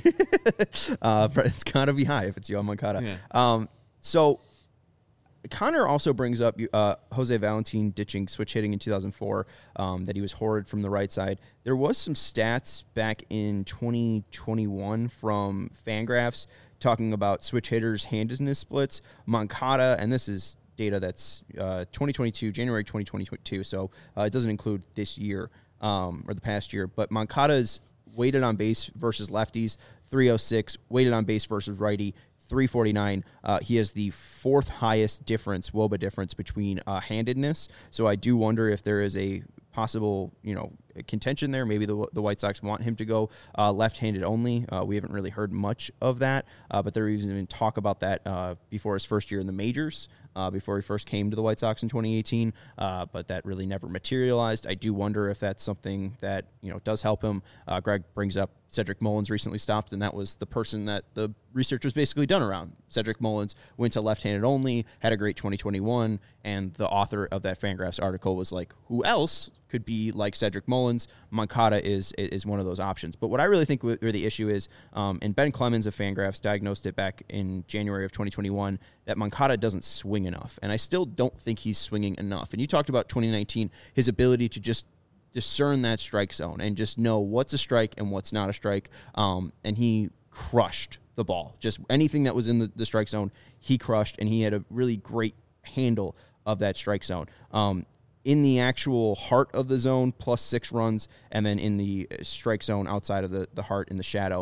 It's got to be high if it's Yoan Moncada. Yeah. So Connor also brings up Jose Valentin ditching switch hitting in 2004, that he was horrid from the right side. There was some stats back in 2021 from Fangraphs talking about switch hitters' handedness splits. Moncada, and this is data that's 2022, January 2022, so it doesn't include this year or the past year, but Moncada's weighted on base versus lefties, 306, weighted on base versus righty, 349. He has the 4th highest difference, WOBA difference, between handedness. So I do wonder if there is a possible, contention there. Maybe the White Sox want him to go left-handed only. We haven't really heard much of that, but there was even talk about that before his first year in the majors, before he first came to the White Sox in 2018, but that really never materialized. I do wonder if that's something that does help him. Greg brings up Cedric Mullins recently stopped, and that was the person that the research was basically done around. Cedric Mullins went to left-handed only, had a great 2021, and the author of that Fangraphs article was like, who else could be like Cedric Mullins? Moncada is one of those options. But what I really think where the issue is, and Ben Clemens of Fangraphs diagnosed it back in January of 2021, that Moncada doesn't swing enough. And I still don't think he's swinging enough. And you talked about 2019, his ability to just discern that strike zone and just know what's a strike and what's not a strike. And he crushed the ball. Just anything that was in the strike zone, he crushed, and he had a really great handle of that strike zone. in the actual heart of the zone, +6 runs, and then in the strike zone outside of the heart in the shadow,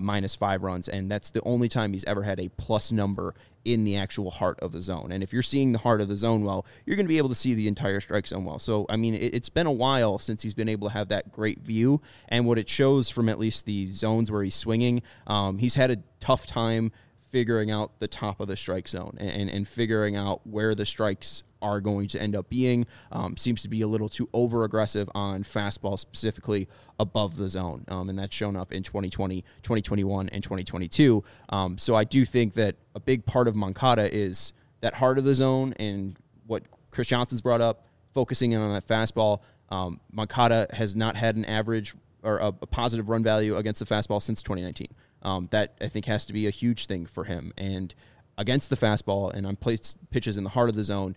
-5 runs. And that's the only time he's ever had a plus number in the actual heart of the zone. And if you're seeing the heart of the zone well, you're going to be able to see the entire strike zone well. So, I mean, it's been a while since he's been able to have that great view. And what it shows from at least the zones where he's swinging, he's had a tough time figuring out the top of the strike zone and figuring out where the strikes are going to end up being. Seems to be a little too over-aggressive on fastball, specifically above the zone. And that's shown up in 2020, 2021, and 2022. So I do think that a big part of Moncada is that heart of the zone and what Chris Johnson's brought up, focusing in on that fastball. Moncada has not had an average or a positive run value against the fastball since 2019. That, I think, has to be a huge thing for him. And against the fastball and on pitches in the heart of the zone,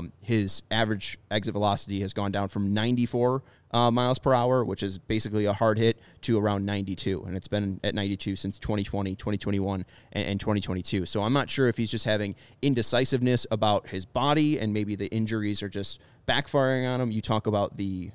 his average exit velocity has gone down from 94 miles per hour, which is basically a hard hit, to around 92. And it's been at 92 since 2020, 2021, and 2022. So I'm not sure if he's just having indecisiveness about his body and maybe the injuries are just backfiring on him. You talk about the,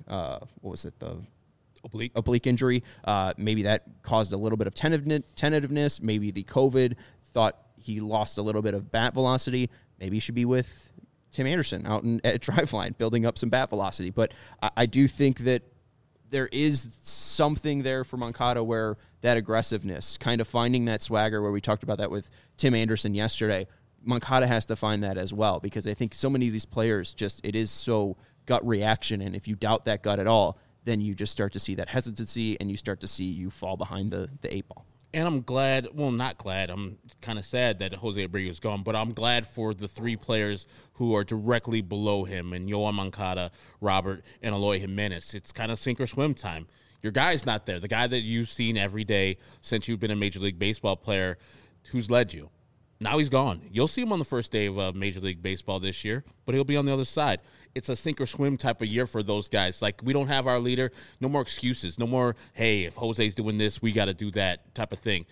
the oblique injury. Maybe that caused a little bit of tentativeness. Maybe the COVID thought he lost a little bit of bat velocity. Maybe he should be with Tim Anderson out at Driveline, building up some bat velocity. But I do think that there is something there for Moncada where that aggressiveness, kind of finding that swagger, where we talked about that with Tim Anderson yesterday, Moncada has to find that as well, because I think so many of these players it is so gut reaction. And if you doubt that gut at all, then you just start to see that hesitancy and you start to see you fall behind the 8-ball. And I'm glad, well, not glad, I'm kind of sad that Jose Abreu is gone, but I'm glad for the 3 players who are directly below him, and Yoan Moncada, Robert, and Eloy Jimenez. It's kind of sink or swim time. Your guy's not there, the guy that you've seen every day since you've been a Major League Baseball player who's led you. Now he's gone. You'll see him on the first day of Major League Baseball this year, but he'll be on the other side. It's a sink or swim type of year for those guys. Like, we don't have our leader. No more excuses. No more, hey, if Jose's doing this, we got to do that type of thing.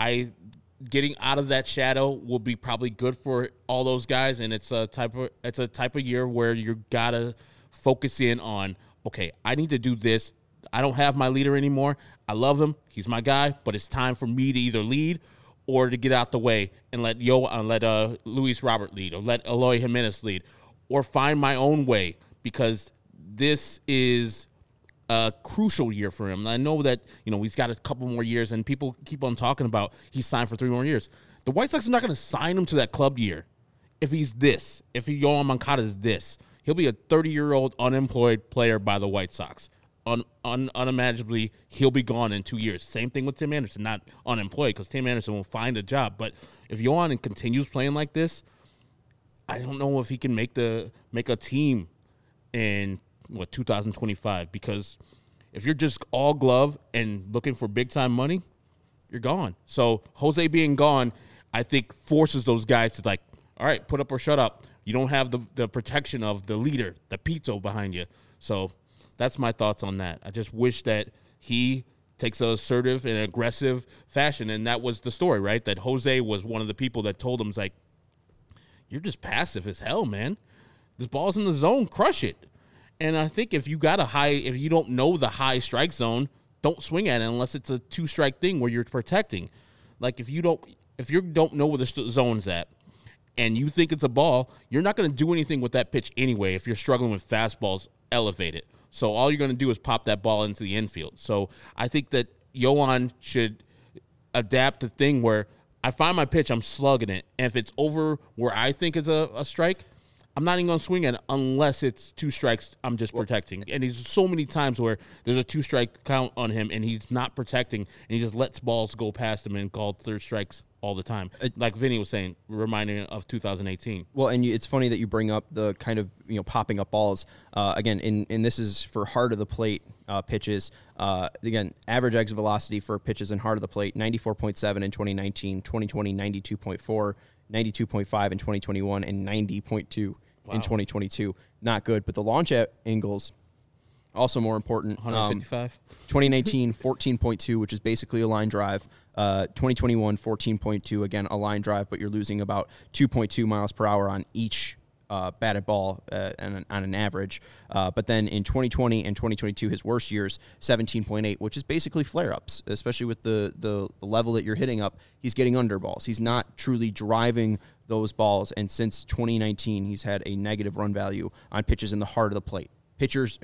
Getting out of that shadow will be probably good for all those guys, and it's a type of year where you got to focus in on, okay, I need to do this. I don't have my leader anymore. I love him. He's my guy, but it's time for me to either lead or to get out the way and let Luis Robert lead, or let Eloy Jimenez lead, or find my own way, because this is a crucial year for him. And I know that, he's got a couple more years, and people keep on talking about he's signed for 3 more years. The White Sox are not going to sign him to that club year if he's this. If Yoan Moncada is this, he'll be a 30-year-old unemployed player by the White Sox. Unimaginably, he'll be gone in 2 years. Same thing with Tim Anderson, not unemployed, because Tim Anderson will find a job. But if Yoan continues playing like this, I don't know if he can make a team in 2025. Because if you're just all glove and looking for big time money, you're gone. So Jose being gone, I think, forces those guys to, like, all right, put up or shut up. You don't have the protection of the leader, the pizzo behind you. So that's my thoughts on that. I just wish that he takes an assertive and aggressive fashion, and that was the story, right? That Jose was one of the people that told him, like, you're just passive as hell, man. This ball's in the zone, crush it. And I think if you don't know the high strike zone, don't swing at it unless it's a 2-strike thing where you're protecting. Like, if you don't know where the zone's at and you think it's a ball, you're not going to do anything with that pitch anyway if you're struggling with fastballs elevated. So all you're going to do is pop that ball into the infield. So I think that Yoan should adapt the thing where I find my pitch, I'm slugging it, and if it's over where I think is a strike, I'm not even going to swing at it unless it's 2 strikes. I'm just protecting. And there's so many times where there's a 2-strike count on him, and he's not protecting, and he just lets balls go past him and called 3rd strikes all the time. Like Vinny was saying, reminding of 2018. Well, and it's funny that you bring up the kind of popping up balls. Again, and this is for heart of the plate pitches. Again, average exit velocity for pitches in heart of the plate, 94.7 in 2019, 2020, 92.4, 92.5 in 2021, and 90.2 in 2022. Not good, but the launch angles also more important. 155. 2019, 14.2, which is basically a line drive. 2021, 14.2, again, a line drive, but you're losing about 2.2 miles per hour on each batted ball on an average. But then in 2020 and 2022, his worst years, 17.8, which is basically flare-ups, especially with the level that you're hitting up. He's getting under balls. He's not truly driving those balls. And since 2019, he's had a negative run value on pitches in the heart of the plate. Hitters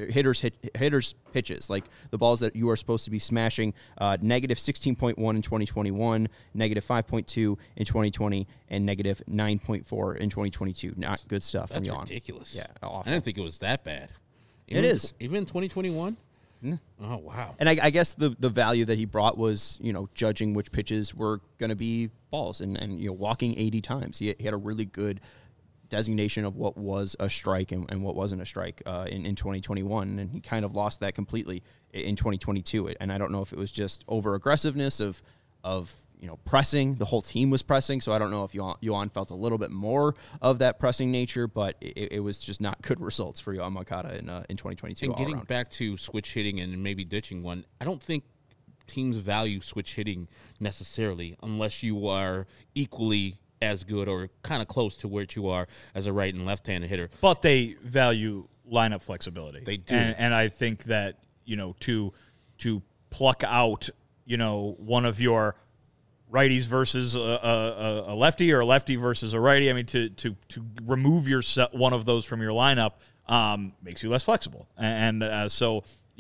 pitches, like the balls that you are supposed to be smashing, negative 16.1 in 2021, negative 5.2 in 2020, and negative 9.4 in 2022. Not good stuff. That's from Yoan. ridiculous. Yeah, awful. I didn't think it was that bad. It is. Even in 2021? Mm. Oh, wow. And I guess the value that he brought was, judging which pitches were going to be balls and walking 80 times. He had a really good designation of what was a strike and what wasn't a strike in 2021, and he kind of lost that completely in 2022. And I don't know if it was just over aggressiveness of pressing. The whole team was pressing, so I don't know if Yoan felt a little bit more of that pressing nature, but it was just not good results for Yoan Moncada in 2022. And getting back to switch hitting and maybe ditching one, I don't think teams value switch hitting necessarily unless you are equally as good or kind of close to where you are as a right and left-handed hitter. But they value lineup flexibility. They do. And I think that, to pluck out, one of your righties versus a lefty or a lefty versus a righty, I mean, to remove one of those from your lineup makes you less flexible. And so,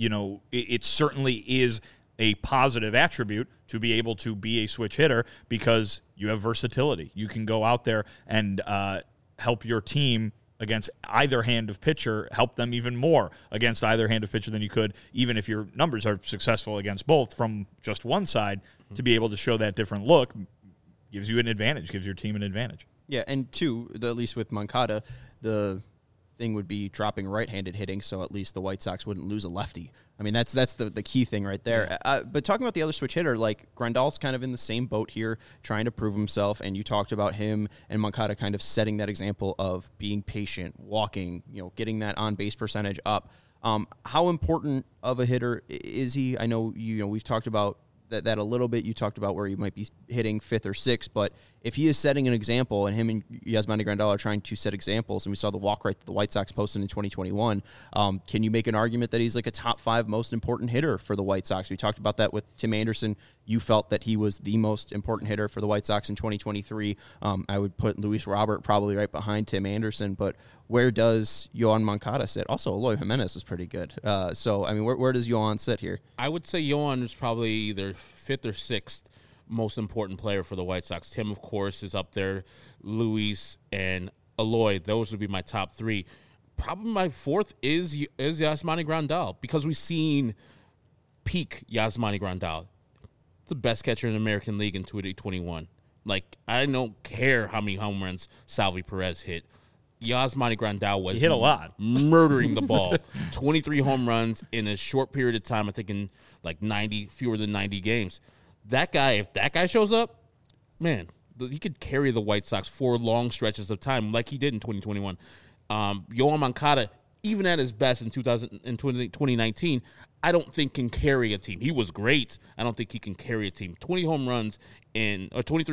it certainly is a positive attribute to be able to be a switch hitter because you have versatility. You can go out there and help your team against either hand of pitcher, help them even more against either hand of pitcher than you could, even if your numbers are successful against both from just one side. To be able to show that different look gives you an advantage, gives your team an advantage. Yeah, and two, at least with Moncada, the thing would be dropping right-handed hitting, so at least the White Sox wouldn't lose a lefty. I mean, that's the key thing right there. Yeah. But talking about the other switch hitter, like Grandal's kind of in the same boat here, trying to prove himself, and you talked about him and Moncada kind of setting that example of being patient, walking, getting that on-base percentage up. How important of a hitter is he? I know we've talked about that a little bit. You talked about where you might be hitting fifth or sixth, but if he is setting an example, and him and Yasmani Grandal are trying to set examples, and we saw the walk rate that the White Sox posted in 2021, can you make an argument that he's like a top 5 most important hitter for the White Sox? We talked about that with Tim Anderson. You felt that he was the most important hitter for the White Sox in 2023. I would put Luis Robert probably right behind Tim Anderson, but where does Yoan Moncada sit? Also, Eloy Jimenez was pretty good. So, I mean, where does Yoan sit here? I would say Yoan is probably either 5th or 6th most important player for the White Sox. Tim, of course, is up there. Luis and Eloy, those would be my top 3. Probably my 4th is Yasmani Grandal, because we've seen peak Yasmani Grandal. The best catcher in the American League in 2021. Like, I don't care how many home runs Salvi Perez hit. Yasmani Grandal was hit a lot, murdering the ball. 23 home runs in a short period of time. I think in like fewer than 90 games. That guy, if that guy shows up, man, he could carry the White Sox for long stretches of time, like he did in 2021. Yoan Moncada, even at his best in 2019, I don't think can carry a team. He was great. I don't think he can carry a team. 23 home runs in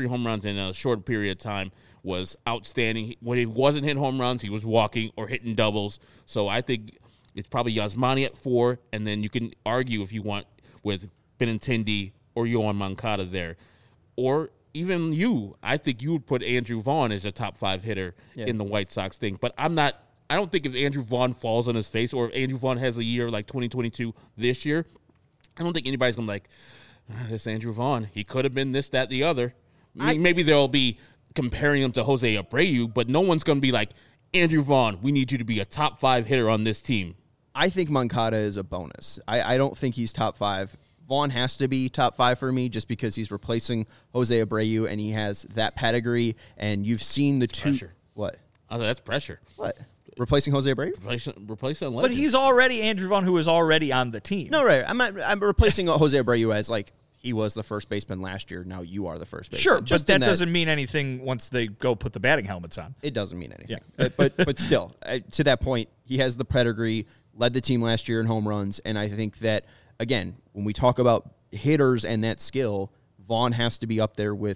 a short period of time was outstanding. When he wasn't hitting home runs, he was walking or hitting doubles. So I think it's probably Yasmani at 4, and then you can argue if you want with Benintendi or Yoan Moncada there. Or even you, I think you would put Andrew Vaughn as a top 5 hitter in the White Sox thing. But I don't think if Andrew Vaughn falls on his face, or if Andrew Vaughn has a year like 2022 this year, I don't think anybody's going to be like, this Andrew Vaughn, he could have been this, that, the other. Maybe they'll be comparing him to Jose Abreu, but no one's going to be like, Andrew Vaughn, we need you to be a top 5 hitter on this team. I think Moncada is a bonus. I don't think he's top 5. Vaughn has to be top 5 for me just because he's replacing Jose Abreu and he has that pedigree, and you've seen the two. Pressure. What? Oh, that's pressure. What? Replacing Jose Abreu? Replacing a legend. But he's already Andrew Vaughn, who is already on the team. No, right. I'm replacing Jose Abreu as like he was the first baseman last year. Now you are the first baseman. Sure, but that doesn't mean anything once they go put the batting helmets on. It doesn't mean anything. Yeah. but still, to that point, he has the pedigree, led the team last year in home runs, and I think that, again, when we talk about hitters and that skill, Vaughn has to be up there with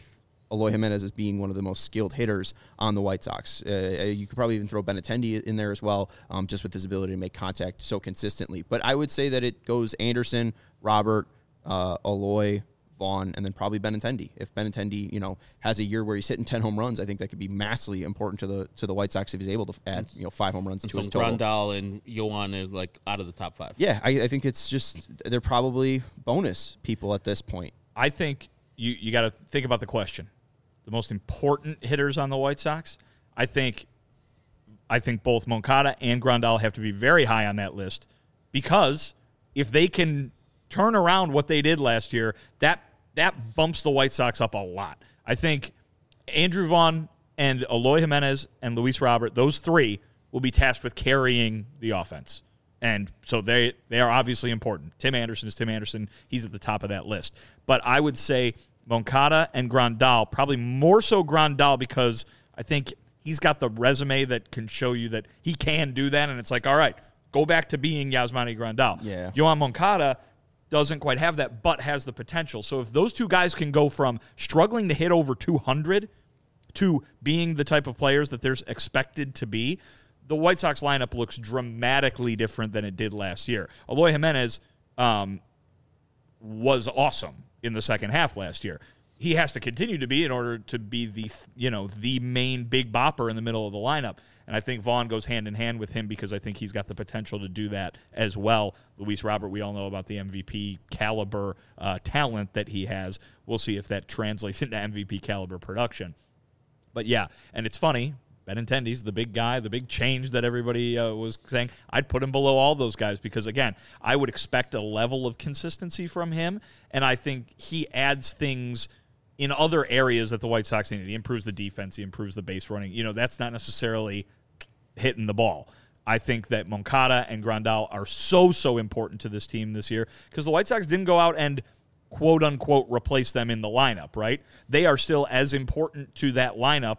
Eloy Jimenez as being one of the most skilled hitters on the White Sox. You could probably even throw Benintendi in there as well, just with his ability to make contact so consistently. But I would say that it goes Anderson, Robert, Eloy, Vaughn, and then probably Benintendi. If Benintendi, has a year where he's hitting 10 home runs, I think that could be massively important to the White Sox if he's able to add 5 home runs to his total. Grandal and Yoan are like out of the top 5. Yeah, I think it's just they're probably bonus people at this point. I think you got to think about the question. The most important hitters on the White Sox, I think both Moncada and Grandal have to be very high on that list, because if they can turn around what they did last year, that bumps the White Sox up a lot. I think Andrew Vaughn and Eloy Jimenez and Luis Robert, those 3 will be tasked with carrying the offense. And so they are obviously important. Tim Anderson is Tim Anderson. He's at the top of that list. But I would say Moncada and Grandal, probably more so Grandal, because I think he's got the resume that can show you that he can do that. And it's like, all right, go back to being Yasmani Grandal. Yeah. Yoan Moncada doesn't quite have that, but has the potential. So if those 2 guys can go from struggling to hit over 200 to being the type of players that they're expected to be, the White Sox lineup looks dramatically different than it did last year. Eloy Jimenez was awesome in the second half last year. He has to continue to be in order to be the main big bopper in the middle of the lineup. And I think Vaughn goes hand in hand with him, because I think he's got the potential to do that as well. Luis Robert, we all know about the MVP caliber talent that he has. We'll see if that translates into MVP caliber production. But yeah, and it's funny, Benintendi's the big guy, the big change that everybody was saying. I'd put him below all those guys because, again, I would expect a level of consistency from him, and I think he adds things in other areas that the White Sox need. He improves the defense. He improves the base running. That's not necessarily hitting the ball. I think that Moncada and Grandal are so important to this team this year, because the White Sox didn't go out and quote-unquote replace them in the lineup, right? They are still as important to that lineup,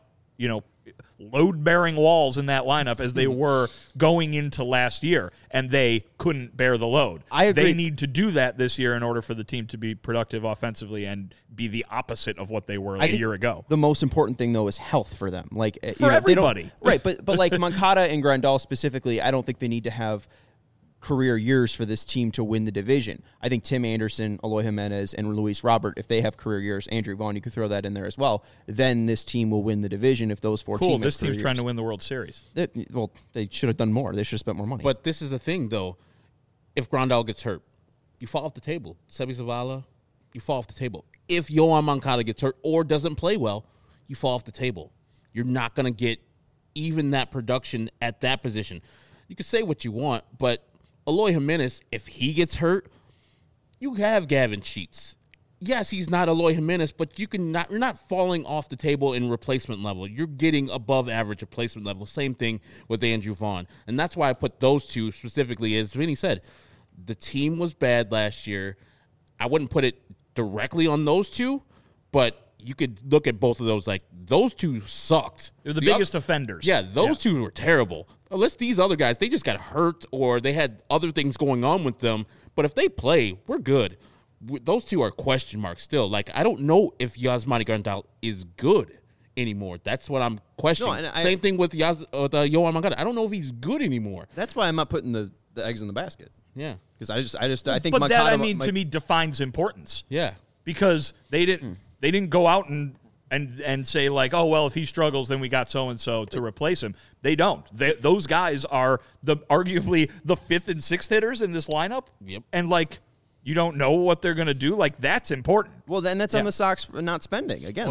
load-bearing walls in that lineup as they were going into last year, and they couldn't bear the load. I agree. They need to do that this year in order for the team to be productive offensively and be the opposite of what they were a year ago. The most important thing, though, is health for them. Like for everybody. Right, but like Moncada and Grandal specifically, I don't think they need to have career years for this team to win the division. I think Tim Anderson, Eloy Jimenez, and Luis Robert, if they have career years, Andrew Vaughn, you could throw that in there as well, then this team will win the division if those 4 teams have This career team's trying years. to win the World Series. They should have done more. They should have spent more money. But this is the thing, though. If Grandal gets hurt, you fall off the table. Sebi Zavala, you fall off the table. If Yoan Moncada gets hurt or doesn't play well, you fall off the table. You're not going to get even that production at that position. You can say what you want, but Eloy Jimenez, if he gets hurt, you have Gavin Sheets. Yes, he's not Eloy Jimenez, but you're not falling off the table in replacement level. You're getting above average replacement level. Same thing with Andrew Vaughn. And that's why I put those 2 specifically. As Vinny said, the team was bad last year. I wouldn't put it directly on those 2, but you could look at both of those. Like, those 2 sucked. They're the biggest offenders. Yeah, those 2 were terrible. Unless these other guys, they just got hurt or they had other things going on with them. But if they play, we're good. Those 2 are question marks still. Like, I don't know if Yasmani Grandal is good anymore. That's what I'm questioning. No, Same thing with Yoan Moncada. I don't know if he's good anymore. That's why I'm not putting the eggs in the basket. Yeah. Because I think But Moncada, that, to me, defines importance. Yeah. Because they didn't go out and say, like, oh, well, if he struggles, then we got so-and-so to replace him. They don't. Those guys are arguably the 5th and 6th hitters in this lineup. Yep. And, like, you don't know what they're going to do. Like, that's important. Well, then that's on the Sox for not spending. Again,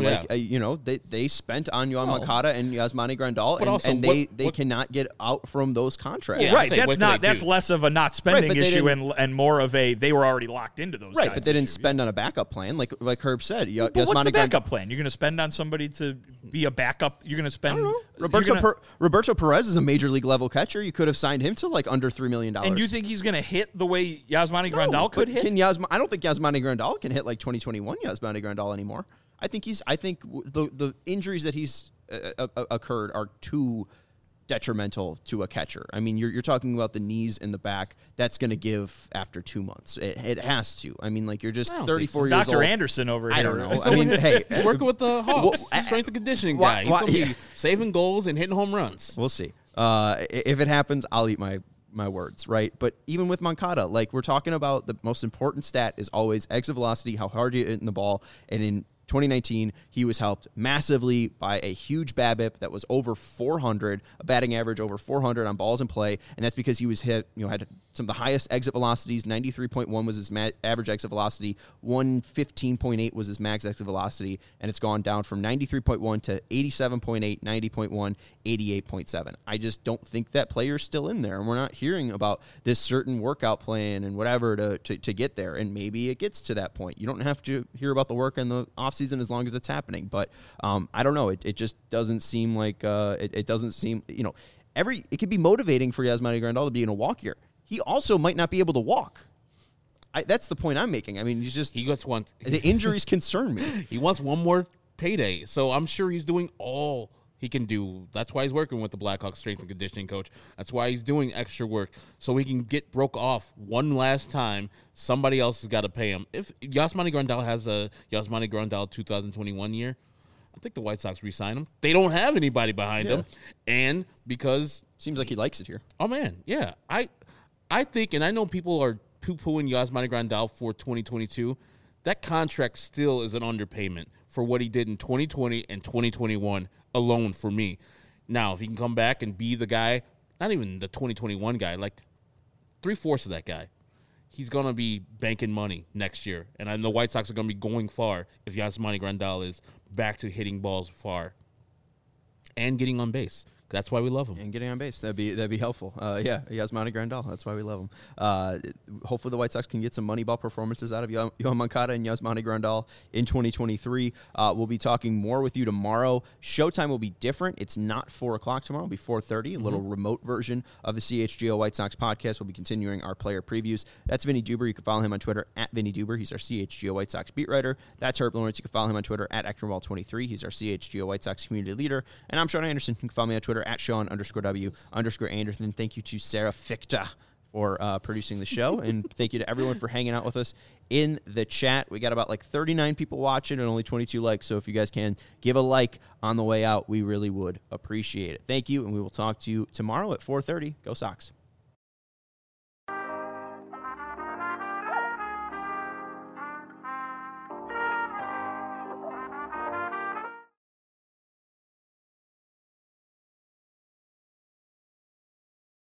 they spent on Yoan Moncada and Yasmani Grandal, and they cannot get out from those contracts. Yeah, right. say, That's less of a not spending Right, issue and more of a they were already locked into those guys. Right, but they didn't spend on a backup plan, like Herb said. But what's the backup plan? You're going to spend on somebody to be a backup? You're going to spend... I don't know. Roberto Perez is a major league level catcher. You could have signed him to like under $3 million. And you think he's going to hit the way Yasmani Grandal could hit? I don't think Yasmani Grandal can hit like 2021 Yasmani Grandal anymore. I think the injuries that he's occurred are too detrimental to a catcher. I mean, you're talking about the knees and the back. That's going to give after 2 months. It has to. I mean, like, you're just 34 years old. Dr. Anderson over here. I don't know. So I mean, hey, he's working with the Hawks. Strength and conditioning guy. He's going to be saving goals and hitting home runs. we'll see. If it happens, I'll eat my words, right? But even with Moncada, like, we're talking about the most important stat is always exit velocity, how hard you hit in the ball. And in 2019, he was helped massively by a huge BABIP that was over 400, a batting average over 400 on balls in play, and that's because he was hit, had some of the highest exit velocities. 93.1 was his average exit velocity, 115.8 was his max exit velocity, and it's gone down from 93.1 to 87.8, 90.1, 88.7. I just don't think that player's still in there, and we're not hearing about this certain workout plan and whatever to get there, and maybe it gets to that point. You don't have to hear about the work in the offseason as long as it's happening, but I don't know. It just doesn't seem like it doesn't seem, it could be motivating for Yasmani Grandal to be in a walk year. He also might not be able to walk. That's the point I'm making. I mean, he gets one. The injuries concern me. He wants one more payday, so I'm sure he's doing all he can do. That's why he's working with the Blackhawks strength and conditioning coach. That's why he's doing extra work, so he can get broke off one last time. Somebody else has got to pay him. If Yasmani Grandal has a Yasmani Grandal 2021 year, I think the White Sox re-sign him. They don't have anybody behind him, and because seems like he likes it here. Oh man, yeah. I think, and I know people are poo-pooing Yasmani Grandal for 2022. That contract still is an underpayment for what he did in 2020 and 2021 alone for me. Now, if he can come back and be the guy, not even the 2021 guy, like 3/4 of that guy, he's going to be banking money next year. And the White Sox are going to be going far if Yasmani Grandal is back to hitting balls far and getting on base. That's why we love him. And getting on base. That'd be helpful. Yasmani Grandal. That's why we love him. Hopefully the White Sox can get some Moneyball performances out of Yohan Moncada and Yasmani Grandal in 2023. We'll be talking more with you tomorrow. Showtime will be different. It's not 4 o'clock tomorrow. It'll be 4:30, a little remote version of the CHGO White Sox podcast. We'll be continuing our player previews. That's Vinny Duber. You can follow him on Twitter at Vinny Duber. He's our CHGO White Sox beat writer. That's Herb Lawrence. You can follow him on Twitter at Eknerwall23. He's our CHGO White Sox community leader. And I'm Sean Anderson. You can follow me on Twitter at Sean_W_Anderson. Thank you to Sarah Fichta for producing the show. And thank you to everyone for hanging out with us in the chat. We got about 39 people watching and only 22 likes. So if you guys can give a like on the way out, we really would appreciate it. Thank you. And we will talk to you tomorrow at 4:30. Go Sox.